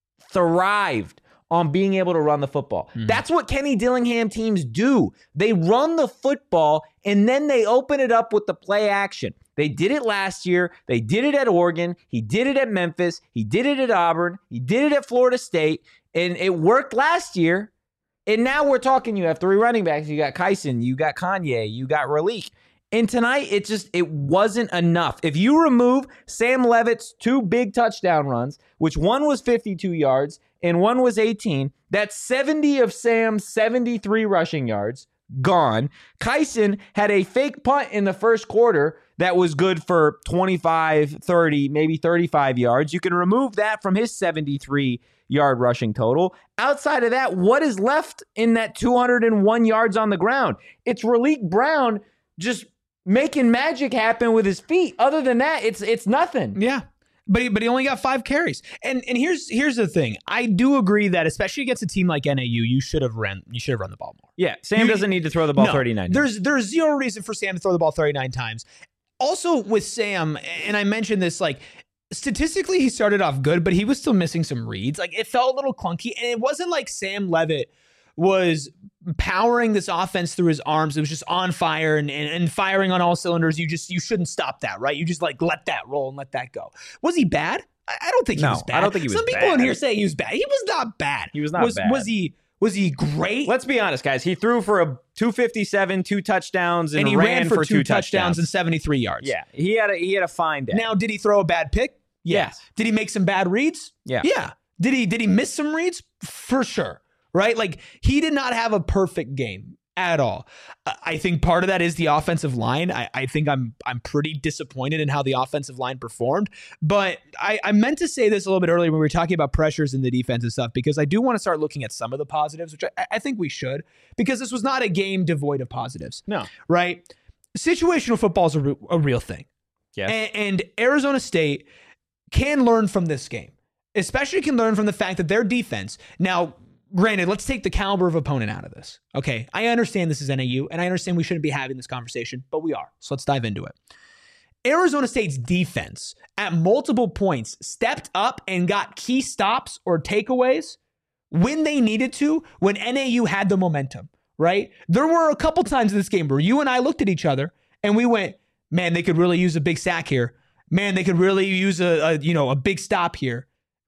thrived on being able to run the football. Mm-hmm. That's what Kenny Dillingham teams do. They run the football, and then they open it up with the play action. They did it last year. They did it at Oregon. He did it at Memphis. He did it at Auburn. He did it at Florida State, and it worked last year. And now we're talking, you have three running backs. You got Kyson, you got Kanye, you got Raleek. And tonight, it just, it wasn't enough. If you remove Sam Levitt's two big touchdown runs, which one was fifty-two yards and one was eighteen, that's seventy of Sam's seventy-three rushing yards gone. Kyson had a fake punt in the first quarter that was good for twenty-five, thirty, maybe thirty-five yards. You can remove that from his seventy-three yard rushing total. Outside of that, what is left in that two hundred one yards on the ground? It's Raleek Brown just making magic happen with his feet. Other than that, it's it's nothing. Yeah. But he, but he only got five carries. And and here's here's the thing. I do agree that especially against a team like N A U, you should have run you should have run the ball more. Yeah, Sam You- doesn't need to throw the ball No, thirty-nine. There's there's zero reason for Sam to throw the ball thirty-nine times. Also with Sam, and I mentioned this, like statistically he started off good, but he was still missing some reads. Like it felt a little clunky, and it wasn't like Sam Levitt was powering this offense through his arms. It was just on fire and, and, and firing on all cylinders. You just you shouldn't stop that, right? You just like let that roll and let that go. Was he bad? I, I don't think he No, was bad. I don't think he was Some people bad. in here say he was bad. He was not bad. He was not was, bad. Was he was he great? Let's be honest, guys. He threw for a two fifty-seven, two touchdowns, and, and he ran, ran, for, for two, two touchdowns touchdowns. and seventy-three yards. Yeah, he had a he had a fine day. Now, did he throw a bad pick? Yes. Did he make some bad reads? Yeah. Yeah. Did he did he miss some reads? For sure. Right? Like he did not have a perfect game at all. Uh, I think part of that is the offensive line. I, I think I'm I'm pretty disappointed in how the offensive line performed. But I, I meant to say this a little bit earlier when we were talking about pressures in the defense and stuff, because I do want to start looking at some of the positives, which I, I think we should, because this was not a game devoid of positives. No. Right? Situational football is a, re- a real thing. Yes. And, and Arizona State can learn from this game, especially can learn from the fact that their defense. Now, granted, let's take the caliber of opponent out of this. Okay, I understand this is N A U, and I understand we shouldn't be having this conversation, but we are. So let's dive into it. Arizona State's defense at multiple points stepped up and got key stops or takeaways when they needed to, when N A U had the momentum, right? There were a couple times in this game where you and I looked at each other and we went, man, they could really use a big sack here. Man, they could really use a, a you know a big stop here.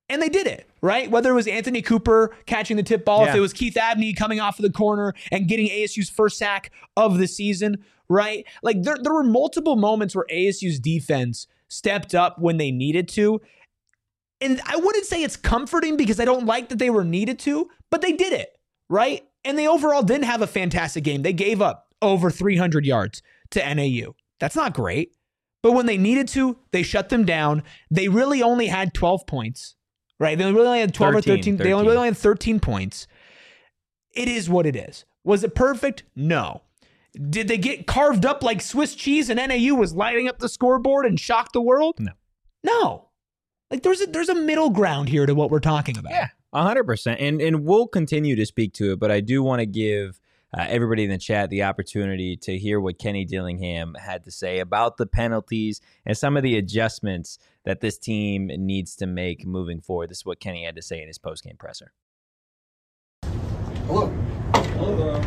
And they did it, right? Whether it was Anthony Cooper catching the tip ball, Yeah. if it was Keith Abney coming off of the corner and getting A S U's first sack of the season, right? Like there, there were multiple moments where A S U's defense stepped up when they needed to. And I wouldn't say it's comforting because I don't like that they were needed to, but they did it, right? And they overall didn't have a fantastic game. They gave up over three hundred yards to N A U. That's not great. But when they needed to, they shut them down. They really only had twelve points. Right, they really only had twelve thirteen, or thirteen. They only really had thirteen points. It is what it is. Was it perfect? No. Did they get carved up like Swiss cheese and N A U was lighting up the scoreboard and shocked the world? No. No. Like there's a there's a middle ground here to what we're talking about. Yeah, one hundred percent. And and we'll continue to speak to it, but I do want to give uh, everybody in the chat the opportunity to hear what Kenny Dillingham had to say about the penalties and some of the adjustments that this team needs to make moving forward. This is what Kenny had to say in his postgame presser. Hello. Hello.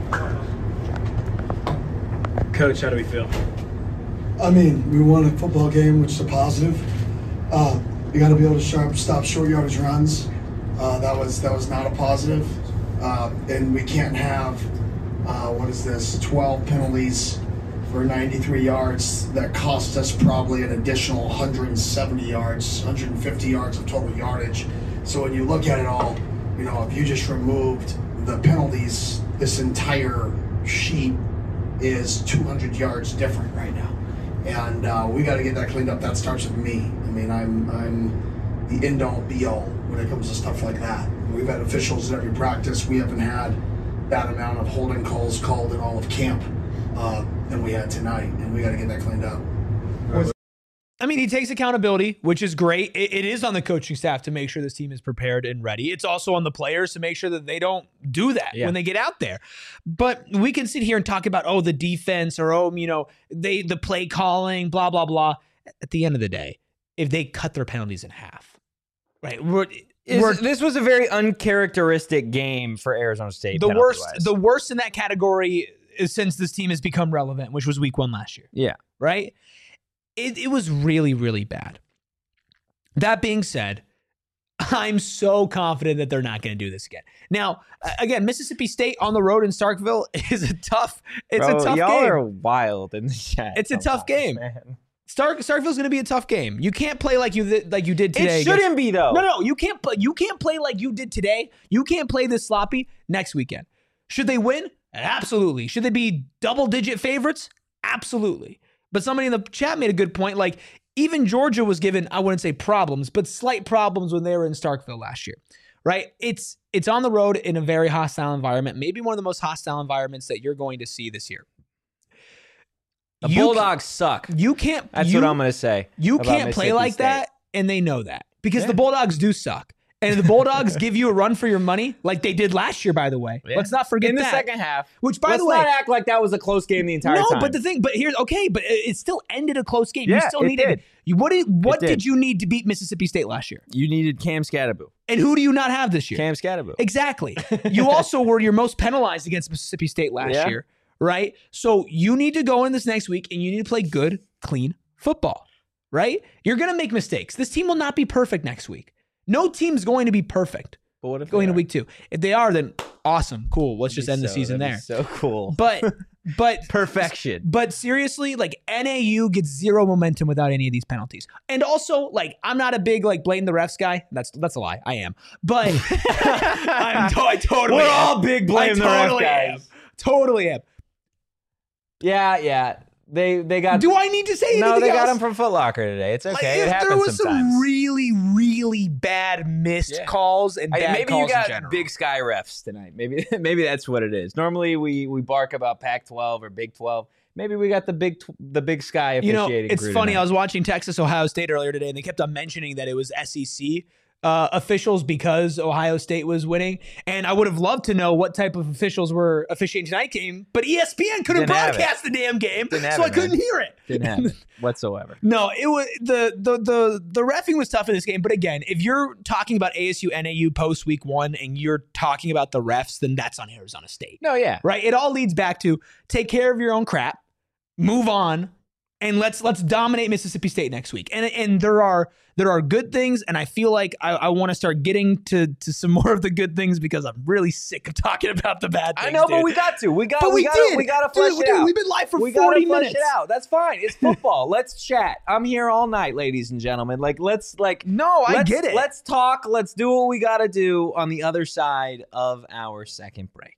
Coach, how do we feel? I mean, we won a football game, which is a positive. Uh, you got to be able to sharp, stop short yardage runs. Uh, that was that was not a positive. Uh, and we can't have, uh, what is this, twelve penalties for ninety-three yards that cost us probably an additional one hundred seventy yards, one hundred fifty yards of total yardage. So when you look at it all, you know, if you just removed the penalties, this entire sheet is two hundred yards different right now. And uh, we got to get that cleaned up. That starts with me. I mean, I'm I'm the end all be all when it comes to stuff like that. We've had officials at every practice. We haven't had that amount of holding calls called in all of camp uh, than we had tonight, and we got to get that cleaned up. I mean, he takes accountability, which is great. It, it is on the coaching staff to make sure this team is prepared and ready. It's also on the players to make sure that they don't do that Yeah. when they get out there. But we can sit here and talk about, oh, the defense or, oh, you know, they the play calling, blah, blah, blah. At the end of the day, if they cut their penalties in half, right? We're, Is- we're, this was a very uncharacteristic game for Arizona State. the worst, penalty-wise. the worst in that category is since this team has become relevant, which was week one last year. yeah. Right? It, it was really, really bad. That being said, I'm so confident that they're not going to do this again. Now, uh, again, Mississippi State on the road in Starkville is a tough. It's Bro, a tough y'all game. are wild in the chat. It's a tough sometimes, game. man. Stark Starkville's going to be a tough game. You can't play like you th- like you did today. It shouldn't against- be though. No, no, you can't play. You can't play like you did today. You can't play this sloppy next weekend. Should they win? Absolutely. Should they be double-digit favorites? Absolutely. But somebody in the chat made a good point. Like, even Georgia was given, I wouldn't say problems, but slight problems when they were in Starkville last year, right? It's it's on the road in a very hostile environment, maybe one of the most hostile environments that you're going to see this year. The You Bulldogs suck. ca- You can't. That's you, what I'm going to say. You about can't play Mississippi like State. that, and they know that because Yeah. the Bulldogs do suck. And the Bulldogs give you a run for your money, like they did last year, by the way. Yeah. Let's not forget In the that. second half. Which, by Let's the way, not act like that was a close game the entire no, time. but the thing, but here's okay, but it, it still ended a close game. you Yeah, still it needed did. You, what did what It did. did you need to beat Mississippi State last year? You needed Cam Scatterboo. And who do you not have this year? Cam Scatterboo. Exactly. You also were your most penalized against Mississippi State last Yeah. year, right? So you need to go in this next week and you need to play good, clean football, right? You're going to make mistakes. This team will not be perfect next week. No team's going to be perfect But what if going they into are? week two. If they are, then awesome, cool. Let's That'd just be end the so- season that'd there. be So cool. But but Perfection. But seriously, like N A U gets zero momentum without any of these penalties. And also, like, I'm not a big like blame the refs guy. That's that's a lie. I am. But I'm to- I totally We're am. all big blame I the ref totally guys. am. Totally am. Yeah, yeah. They they got. Do I need to say anything no, they else? got him from Foot Locker today. It's Like, okay. if it happens there was sometimes. some really, really bad missed Yeah. calls and I- bad maybe calls you got in general. Big Sky refs tonight. Maybe maybe that's what it is. Normally we we bark about Pac twelve or Big twelve. Maybe we got the big tw- the Big Sky You know, officiating. it's crew funny. tonight. I was watching Texas Ohio State earlier today, and they kept on mentioning that it was S E C uh, officials because Ohio State was winning. And I would have loved to know what type of officials were officiating tonight's game, but E S P N couldn't Didn't have it. broadcast the damn game, Didn't have so I it, couldn't man. hear it. Didn't happen whatsoever. No, it was the the the the reffing was tough in this game. But again, if you're talking about A S U N A U post week one and you're talking about the refs, then that's on Arizona State. No, yeah. Right? It all leads back to take care of your own crap, move on, and let's let's dominate Mississippi State next week. And and there are there are good things, and I feel like I, I want to start getting to to some more of the good things because I'm really sick of talking about the bad things. I know, dude. but we got to. We got. But we, we got. did. We got to flesh Dude, it dude, out. we've been live for we forty gotta flesh minutes. it out. That's fine. It's football. Let's chat. I'm here all night, ladies and gentlemen. Like, let's like. No, I let's, get it. Let's talk. Let's do what we got to do on the other side of our second break.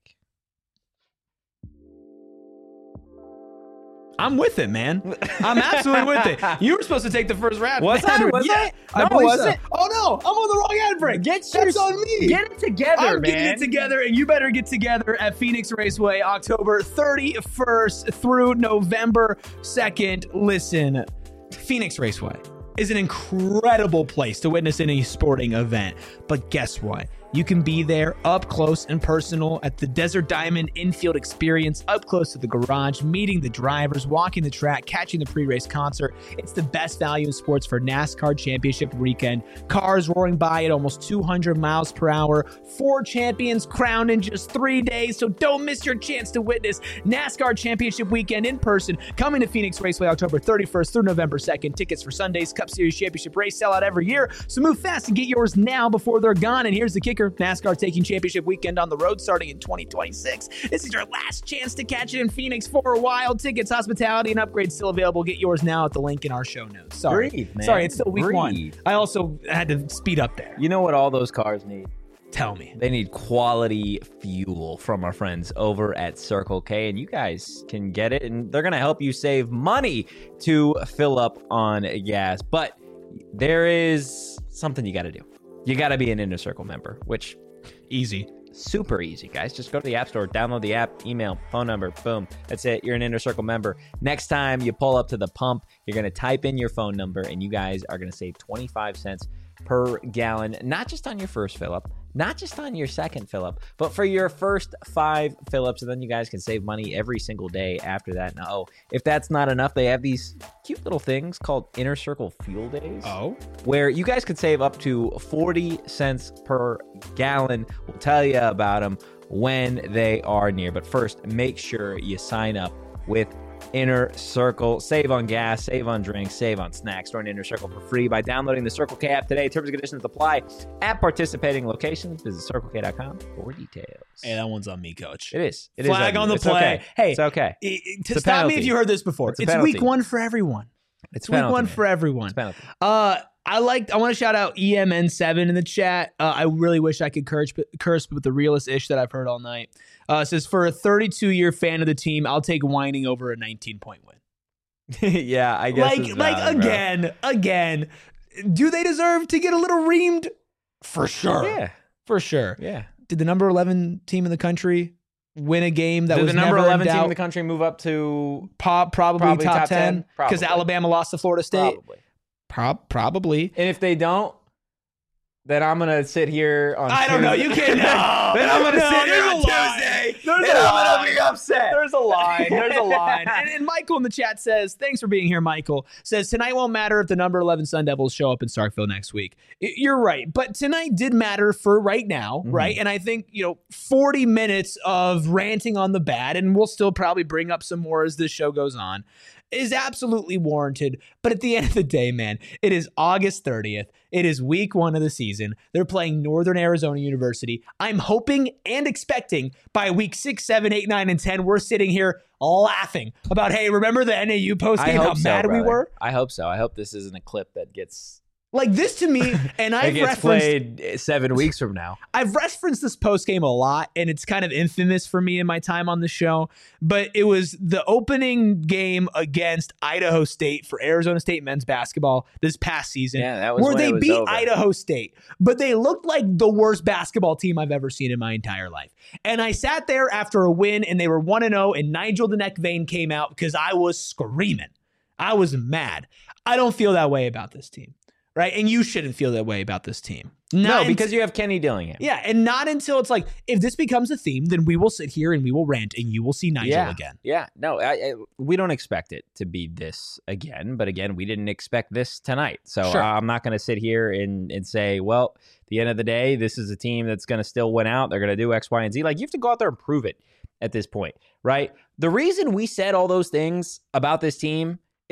I'm with it, man. I'm absolutely with it. You were supposed to take the first round. Was I? Was yeah, I? No, believe wasn't. so. Oh no, I'm on the wrong ad break. Get That's your- on me. Get it together, I'm man. getting it together, and you better get together at Phoenix Raceway, October thirty-first through November second. Listen, Phoenix Raceway is an incredible place to witness any sporting event. But guess what? You can be there up close and personal at the Desert Diamond infield experience, up close to the garage, meeting the drivers, walking the track, catching the pre-race concert. It's the best value in sports for NASCAR Championship weekend. Cars roaring by at almost two hundred miles per hour. Four champions crowned in just three days. So don't miss your chance to witness NASCAR Championship weekend in person. Coming to Phoenix Raceway October thirty-first through November second. Tickets for Sunday's Cup Series Championship race sell out every year. So move fast and get yours now before they're gone. And here's the kicker. NASCAR taking championship weekend on the road starting in twenty twenty-six. This is your last chance to catch it in Phoenix for a while. Tickets, hospitality, and upgrades still available. Get yours now at the link in our show notes. Sorry. Breathe, man. Sorry, it's still week Breathe. one. I also had to speed up there. You know what all those cars need? Tell me. They need quality fuel from our friends over at Circle K, and you guys can get it, and they're going to help you save money to fill up on gas. But there is something you got to do. You got to be an Inner Circle member, which Easy. super easy, guys. Just go to the App Store, download the app, email, phone number, boom. That's it. You're an Inner Circle member. Next time you pull up to the pump, you're going to type in your phone number, and you guys are going to save twenty-five cents per gallon, not just on your first fill up, not just on your second fill up, but for your first five fill ups. And then you guys can save money every single day after that. Now, oh, if that's not enough, they have these cute little things called Inner Circle Fuel Days. Oh. Where you guys could save up to forty cents per gallon. We'll tell you about them when they are near. But first, make sure you sign up with Inner Circle. Save on gas, save on drinks, save on snacks. Join Inner Circle for free by downloading the Circle K app today. Terms and conditions apply at participating locations. Visit circle k dot com for details. Hey, that one's on me, coach. It is. It Flag is on the it's play. Okay. Hey, it's okay. I- I- to a stop me penalty. if you heard this before. It's It's, a week penalty. one for everyone. It's It's week penalty, one man. for everyone. It's penalty. Uh, I like. I want to shout out E M N seven in the chat. Uh, I really wish I could curse, curse with the realest ish that I've heard all night. Uh, it says, for a thirty-two year fan of the team, I'll take whining over a nineteen point win. Yeah, I guess. Like, it's like valid, bro. again, again. Do they deserve to get a little reamed? For sure. Yeah, For sure. yeah. Did the number eleven team in the country win a game that Did was the number never eleven in team doubt? in the country move up to Po- probably, Probably top, top ten ten? because Probably. Alabama lost to Florida State. probably? Prob- probably. And if they don't, then I'm gonna sit here on. I don't know. Tuesday. You can't. No. Then I'm gonna No, sit here there's on a line. Tuesday. There's and a I'm line. gonna be upset. There's a line. There's a line. And, and Michael in the chat says, thanks for being here, Michael. Says, tonight won't matter if the number eleven Sun Devils show up in Starkville next week. Y- You're right. But tonight did matter for right now, Mm-hmm. right? And I think, you know, forty minutes of ranting on the bad, and we'll still probably bring up some more as this show goes on, is absolutely warranted. But at the end of the day, man, it is August thirtieth. It is week one of the season. They're playing Northern Arizona University. I'm hoping and expecting by week six, seven, eight, nine, and ten, we're sitting here laughing about, hey, remember the N A U post I game, how hope so, mad we brother. were? I hope so. I hope this isn't a clip that gets Like this to me, and that I've gets referenced played seven weeks from now. I've referenced this post game a lot, and it's kind of infamous for me in my time on the show. But it was the opening game against Idaho State for Arizona State men's basketball this past season. Yeah, that was where when they it was beat over. Idaho State, but they looked like the worst basketball team I've ever seen in my entire life. And I sat there after a win, and they were one and zero, and Nigel the Neck Vein came out because I was screaming. I was mad. I don't feel that way about this team. Right. And you shouldn't feel that way about this team. No, Not because you have Kenny Dillingham. yeah, and not until it's like, if this becomes a theme, then we will sit here and we will rant and you will see Nigel yeah. again. Yeah, no, I, I, we don't expect it to be this again. But again, we didn't expect this tonight. So Sure. uh, I'm not going to sit here and, and say, well, at the end of the day, this is a team that's going to still win out. They're going to do X, Y, and Z. Like, you have to go out there and prove it at this point, right? The reason we said all those things about this team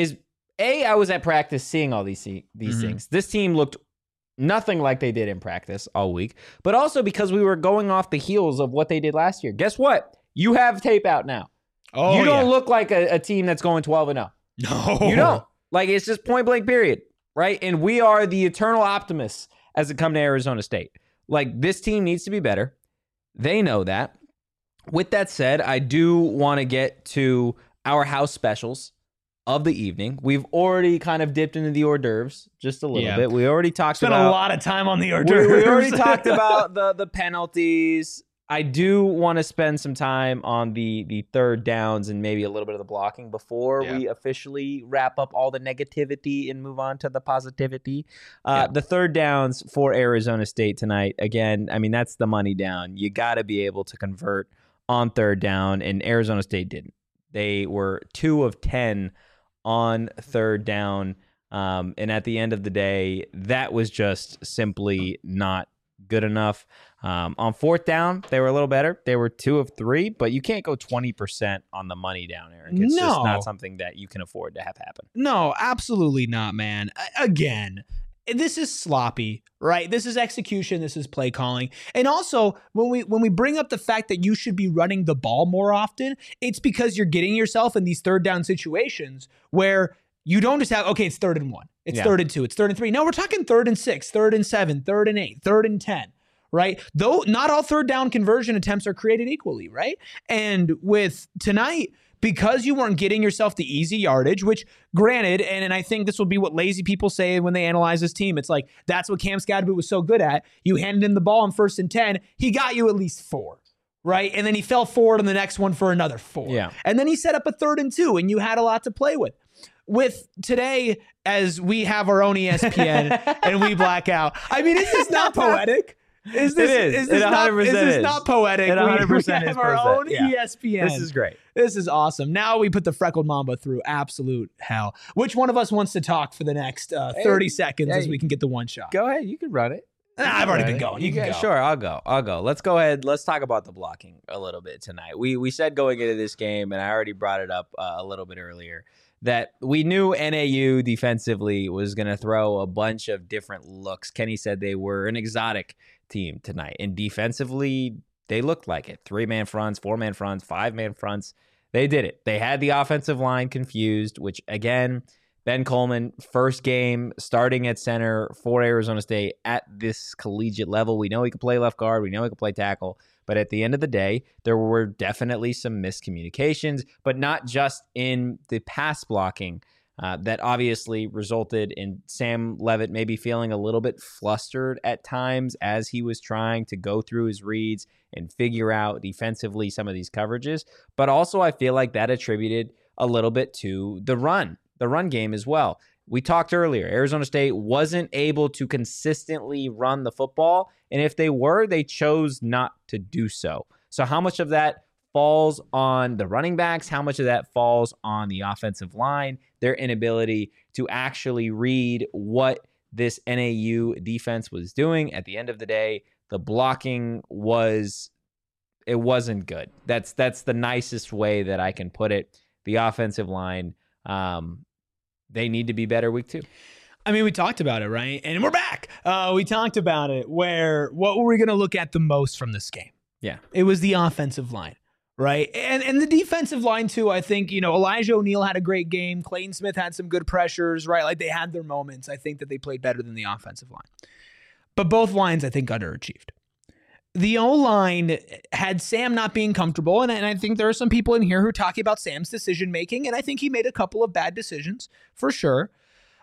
is A, I was at practice seeing all these these Mhm. things. This team looked nothing like they did in practice all week, but also because we were going off the heels of what they did last year. Guess what? You have tape out now. Oh, you don't yeah. look like a, a team that's going twelve and oh. No. You don't. Like, it's just point blank period, right? And we are the eternal optimists as it comes to Arizona State. Like, this team needs to be better. They know that. With that said, I do want to get to our house specials of the evening. We've already kind of dipped into the hors d'oeuvres just a little Yeah. bit. We already talked Spent about a lot of time on the hors we, d'oeuvres. we already talked about the the penalties. I do want to spend some time on the the third downs and maybe a little bit of the blocking before Yeah. we officially wrap up all the negativity and move on to the positivity. Uh, Yeah. The third downs for Arizona State tonight. Again, I mean, that's the money down. You got to be able to convert on third down, and Arizona State didn't. They were two of ten on third down. Um, and at the end of the day, that was just simply not good enough. Um, on fourth down, they were a little better. They were two of three, but you can't go twenty percent on the money down, Eric. It's just No. not something that you can afford to have happen. No, absolutely not, man. A- Again, this is sloppy, right? This is execution, this is play calling. And also, when we when we bring up the fact that you should be running the ball more often, it's because you're getting yourself in these third down situations where you don't just have, okay, it's third and one, it's Yeah. third and two, it's third and three. No, we're talking third and six, third and seven, third and eight, third and ten. Right? Though not all third down conversion attempts are created equally, right? And with tonight, because you weren't getting yourself the easy yardage, which granted, and, and I think this will be what lazy people say when they analyze this team. It's like, that's what Cam Scadaboo was so good at. You handed him the ball on first and ten. He got you at least four, right? And then he fell forward on the next one for another four. Yeah. And then he set up a third and two, and you had a lot to play with. With today, as we have our own E S P N and we black out. I mean, is this not poetic? Is this, It is. is this It not, is one hundred percent this is. not poetic? It We- one hundred percent we is have our poetic. own Yeah. E S P N. This is great. This is awesome. Now we put the freckled mamba through absolute hell. Which one of us wants to talk for the next uh, thirty seconds hey. as we can get the one shot? Go ahead. You can run it. Nah, I've already been going. You can go. Sure, I'll go. I'll go. Let's go ahead. Let's talk about the blocking a little bit tonight. We we said going into this game, and I already brought it up uh, a little bit earlier, that we knew N A U defensively was going to throw a bunch of different looks. Kenny said they were an exotic team tonight, and defensively, they looked like it. Three-man fronts, four-man fronts, five-man fronts. They did it. They had the offensive line confused, which, again, Ben Coleman, first game starting at center for Arizona State at this collegiate level. We know he can play left guard. We know he can play tackle. But at the end of the day, there were definitely some miscommunications, but not just in the pass blocking uh, that obviously resulted in Sam Levitt maybe feeling a little bit flustered at times as he was trying to go through his reads and figure out defensively some of these coverages. But also I feel like that attributed a little bit to the run, the run game as well. We talked earlier, Arizona State wasn't able to consistently run the football, and if they were, they chose not to do so. So how much of that falls on the running backs? How much of that falls on the offensive line? Their inability to actually read what this N A U defense was doing. At the end of the day, the blocking was, it wasn't good. That's that's the nicest way that I can put it. The offensive line, um, they need to be better week two. I mean, we talked about it, right? And we're back. Uh, we talked about it where what were we going to look at the most from this game? Yeah. It was the offensive line, right? And and the defensive line, too. I think, you know, Elijah O'Neal had a great game. Clayton Smith had some good pressures, right? Like they had their moments. I think that they played better than the offensive line. But both lines, I think, underachieved. The O-line had Sam not being comfortable, and, and I think there are some people in here who are talking about Sam's decision-making, and I think he made a couple of bad decisions, for sure.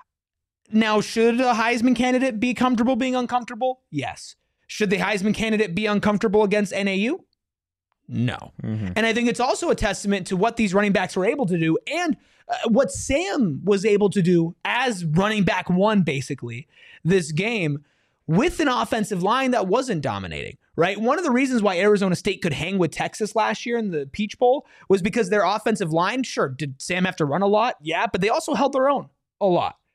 Now, should a Heisman candidate be comfortable being uncomfortable? Yes. Should the Heisman candidate be uncomfortable against N A U? No. Mm-hmm. And I think it's also a testament to what these running backs were able to do and uh, what Sam was able to do as running back one, basically, this game with an offensive line that wasn't dominating, right? One of the reasons why Arizona State could hang with Texas last year in the Peach Bowl was because their offensive line, sure, did Sam have to run a lot? Yeah, but they also held their own a lot.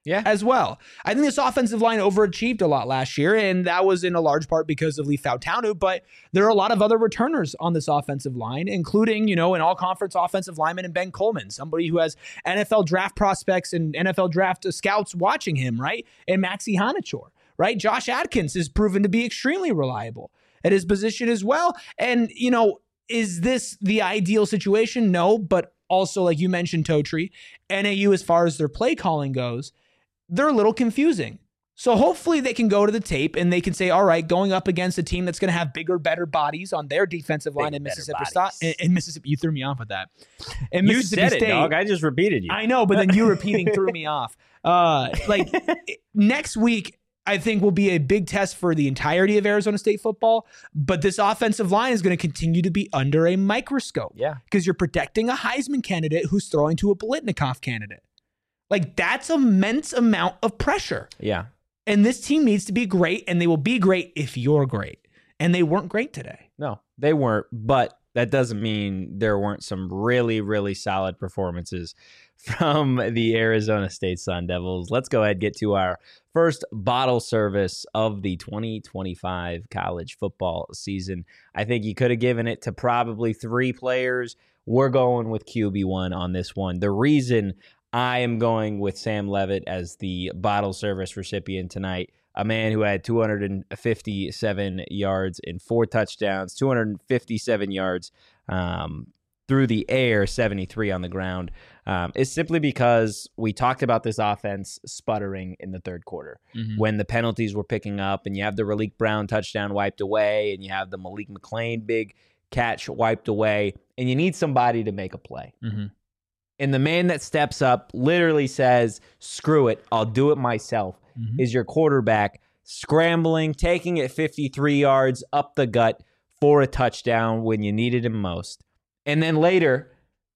Yeah. as well. I think this offensive line overachieved a lot last year, and that was in a large part because of Lee Fautanu, but there are a lot of other returners on this offensive line, including, you know, an all-conference offensive lineman in Ben Coleman, somebody who has N F L draft prospects and N F L draft scouts watching him, right? And Maxi Hanachor, right? Josh Adkins has proven to be extremely reliable at his position as well. And, you know, is this the ideal situation? No, but also, like you mentioned, Totri, N A U, as far as their play calling goes, they're a little confusing. So hopefully they can go to the tape and they can say, all right, going up against a team that's going to have bigger, better bodies on their defensive line Bigger, in better Mississippi State. In, in Mississippi, you threw me off with that. In You Mississippi said it, State, dog. I just repeated you. I know, but then you repeating threw me off. Uh, like next week, I think will be a big test for the entirety of Arizona State football, but this offensive line is going to continue to be under a microscope. Yeah. Because you're protecting a Heisman candidate who's throwing to a Biletnikoff candidate. Like, that's immense amount of pressure. Yeah. And this team needs to be great, and they will be great if you're great. And they weren't great today. No, they weren't, but that doesn't mean there weren't some really, really solid performances from the Arizona State Sun Devils. Let's go ahead and get to our first bottle service of the twenty twenty-five college football season. I think you could have given it to probably three players. We're going with Q B one on this one. The reason I am going with Sam Leavitt as the bottle service recipient tonight, a man who had two hundred fifty-seven yards and four touchdowns, two hundred fifty-seven yards um, through the air, seventy-three on the ground, um, is simply because we talked about this offense sputtering in the third quarter Mm-hmm. when the penalties were picking up and you have the Raleek Brown touchdown wiped away and you have the Malik McClain big catch wiped away, and you need somebody to make a play. Mm-hmm. And the man that steps up literally says, screw it, I'll do it myself, Mm-hmm. is your quarterback scrambling, taking it fifty-three yards up the gut for a touchdown when you needed him most. And then later,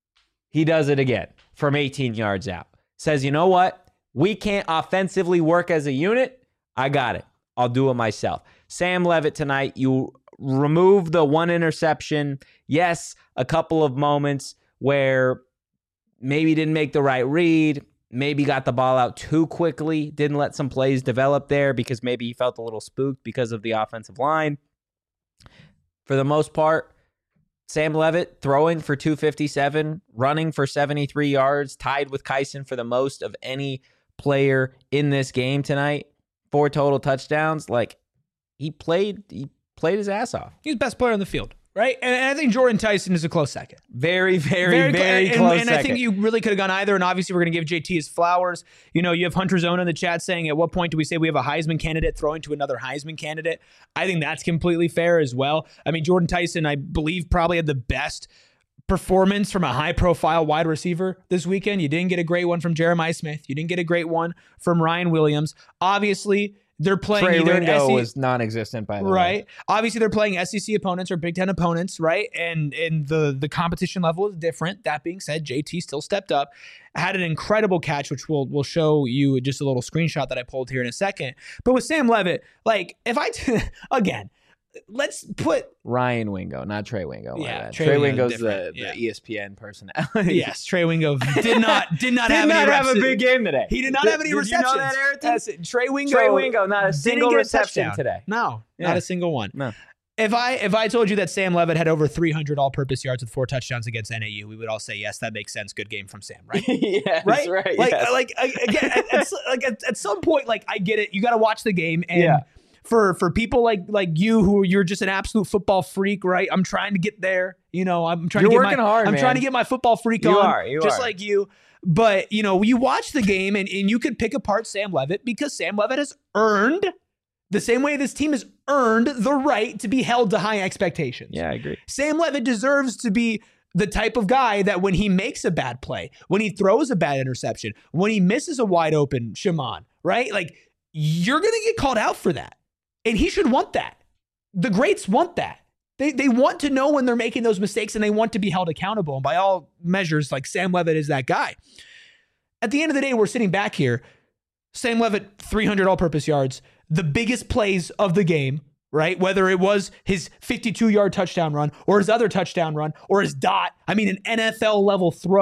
he does it again from eighteen yards out. Says, you know what? We can't offensively work as a unit. I got it. I'll do it myself. Sam Leavitt tonight, you remove the one interception. Yes, a couple of moments where maybe didn't make the right read, maybe got the ball out too quickly, didn't let some plays develop there because maybe he felt a little spooked because of the offensive line. For the most part, Sam Leavitt throwing for two fifty-seven, running for seventy-three yards, tied with Kyson for the most of any player in this game tonight. Four total touchdowns. Like, he played, he played his ass off. He's the best player on the field, right? And, and I think Jordan Tyson is a close second. Very, very, very, cl- close and, and I second. think you really could have gone either. And obviously, we're going to give J T his flowers. You know, you have Hunter Zona in the chat saying, at what point do we say we have a Heisman candidate throwing to another Heisman candidate? I think that's completely fair as well. I mean, Jordan Tyson, I believe, probably had the best performance from a high-profile wide receiver this weekend. You didn't get a great one from Jeremiah Smith. You didn't get a great one from Ryan Williams. Obviously, they're playing Trey either an Wingo S E C was non-existent, by the way. right. Obviously, they're playing S E C opponents or Big Ten opponents, right? And and the the competition level is different. That being said, J T still stepped up, had an incredible catch, which we'll we'll show you just a little screenshot that I pulled here in a second. But with Sam Leavitt, like if I t- again, let's put Ryan Wingo, not Trey Wingo. my Yeah, bad. Trey Trey, Wingo's Wingo's the, different, the yeah. E S P N personality. yes, Trey Wingo did not did not Did have not any have a reps- big game today. He did not Did- have any did you know receptions. that, Ayrton? Yes, Trey Wingo, Trey Wingo, not a didn't single get a reception touchdown today. No, Yeah. not a single one. No. If I if I told you that Sam Leavitt had over three hundred all-purpose yards with four touchdowns against N A U, we would all say yes, that makes sense. Good game from Sam, right? yes, right, right. Like, yes. like I- again, at, at, like at, at some point, like I get it. You got to watch the game, and Yeah. for for people like like you who you're just an absolute football freak, right? I'm trying to get there. You know, I'm trying You're to get working my hard, I'm man. trying to get my football freak You on, are, you just are. like you. But you know, you watch the game, and, and you could pick apart Sam Leavitt because Sam Leavitt has earned the same way this team has earned the right to be held to high expectations. yeah, I agree. Sam Leavitt deserves to be the type of guy that when he makes a bad play, when he throws a bad interception, when he misses a wide open Shaman, right? Like, you're going to get called out for that. And he should want that. The greats want that. They they want to know when they're making those mistakes, and they want to be held accountable. And by all measures, like Sam Leavitt is that guy. At the end of the day, we're sitting back here. Sam Leavitt, three hundred all-purpose yards, the biggest plays of the game, right? Whether it was his fifty-two-yard touchdown run or his other touchdown run or his dot. I mean, an N F L-level throw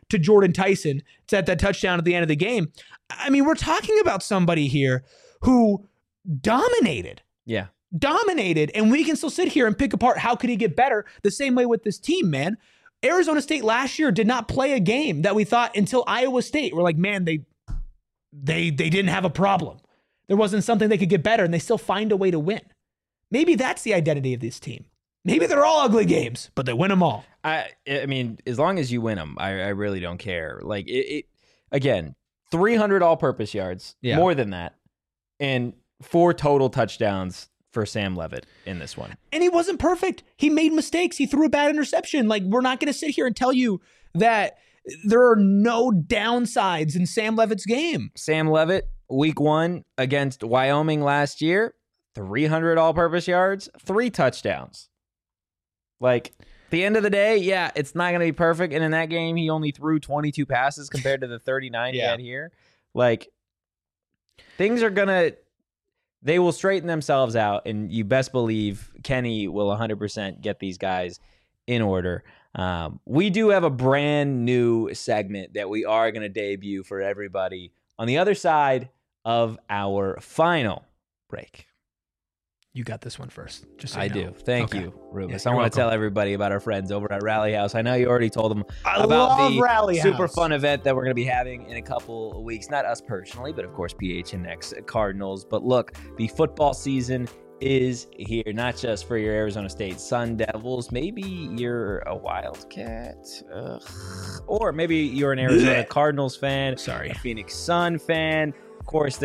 to Jordan Tyson to that touchdown at the end of the game. I mean, we're talking about somebody here who dominated. Yeah. Dominated, and we can still sit here and pick apart how could he get better. The same way with this team, man. Arizona State last year did not play a game that we thought until Iowa State. We're like, man, they they they didn't have a problem. There wasn't something they could get better, and they still find a way to win. Maybe that's the identity of this team. Maybe they're all ugly games, but they win them all. I I mean, as long as you win them, I, I really don't care. Like, it, it again, three hundred all-purpose yards, Yeah. more than that, and four total touchdowns for Sam Levitt in this one. And he wasn't perfect. He made mistakes. He threw a bad interception. Like, we're not going to sit here and tell you that there are no downsides in Sam Levitt's game. Sam Levitt, week one against Wyoming last year, three hundred all-purpose yards, three touchdowns. Like, at the end of the day, yeah, it's not going to be perfect. And in that game, he only threw twenty-two passes compared to the thirty-nine he Yeah. had here. Like, things are going to, they will straighten themselves out. And you best believe Kenny will one hundred percent get these guys in order. Um, we do have a brand new segment that we are going to debut for everybody on the other side of our final break. You got this one first. Just so I you know. do. Thank Okay. you, Rubus. Yeah, I you're want to tell welcome. everybody about our friends over at Rally House. I know you already told them I about love the Rally super House. fun event that we're going to be having in a couple of weeks. Not us personally, but of course P H N X Cardinals. But look, the football season is here, not just for your Arizona State Sun Devils. Maybe you're a Wildcat, Ugh. Or maybe you're an Arizona Cardinals fan, Sorry. a Phoenix Sun fan. Of course,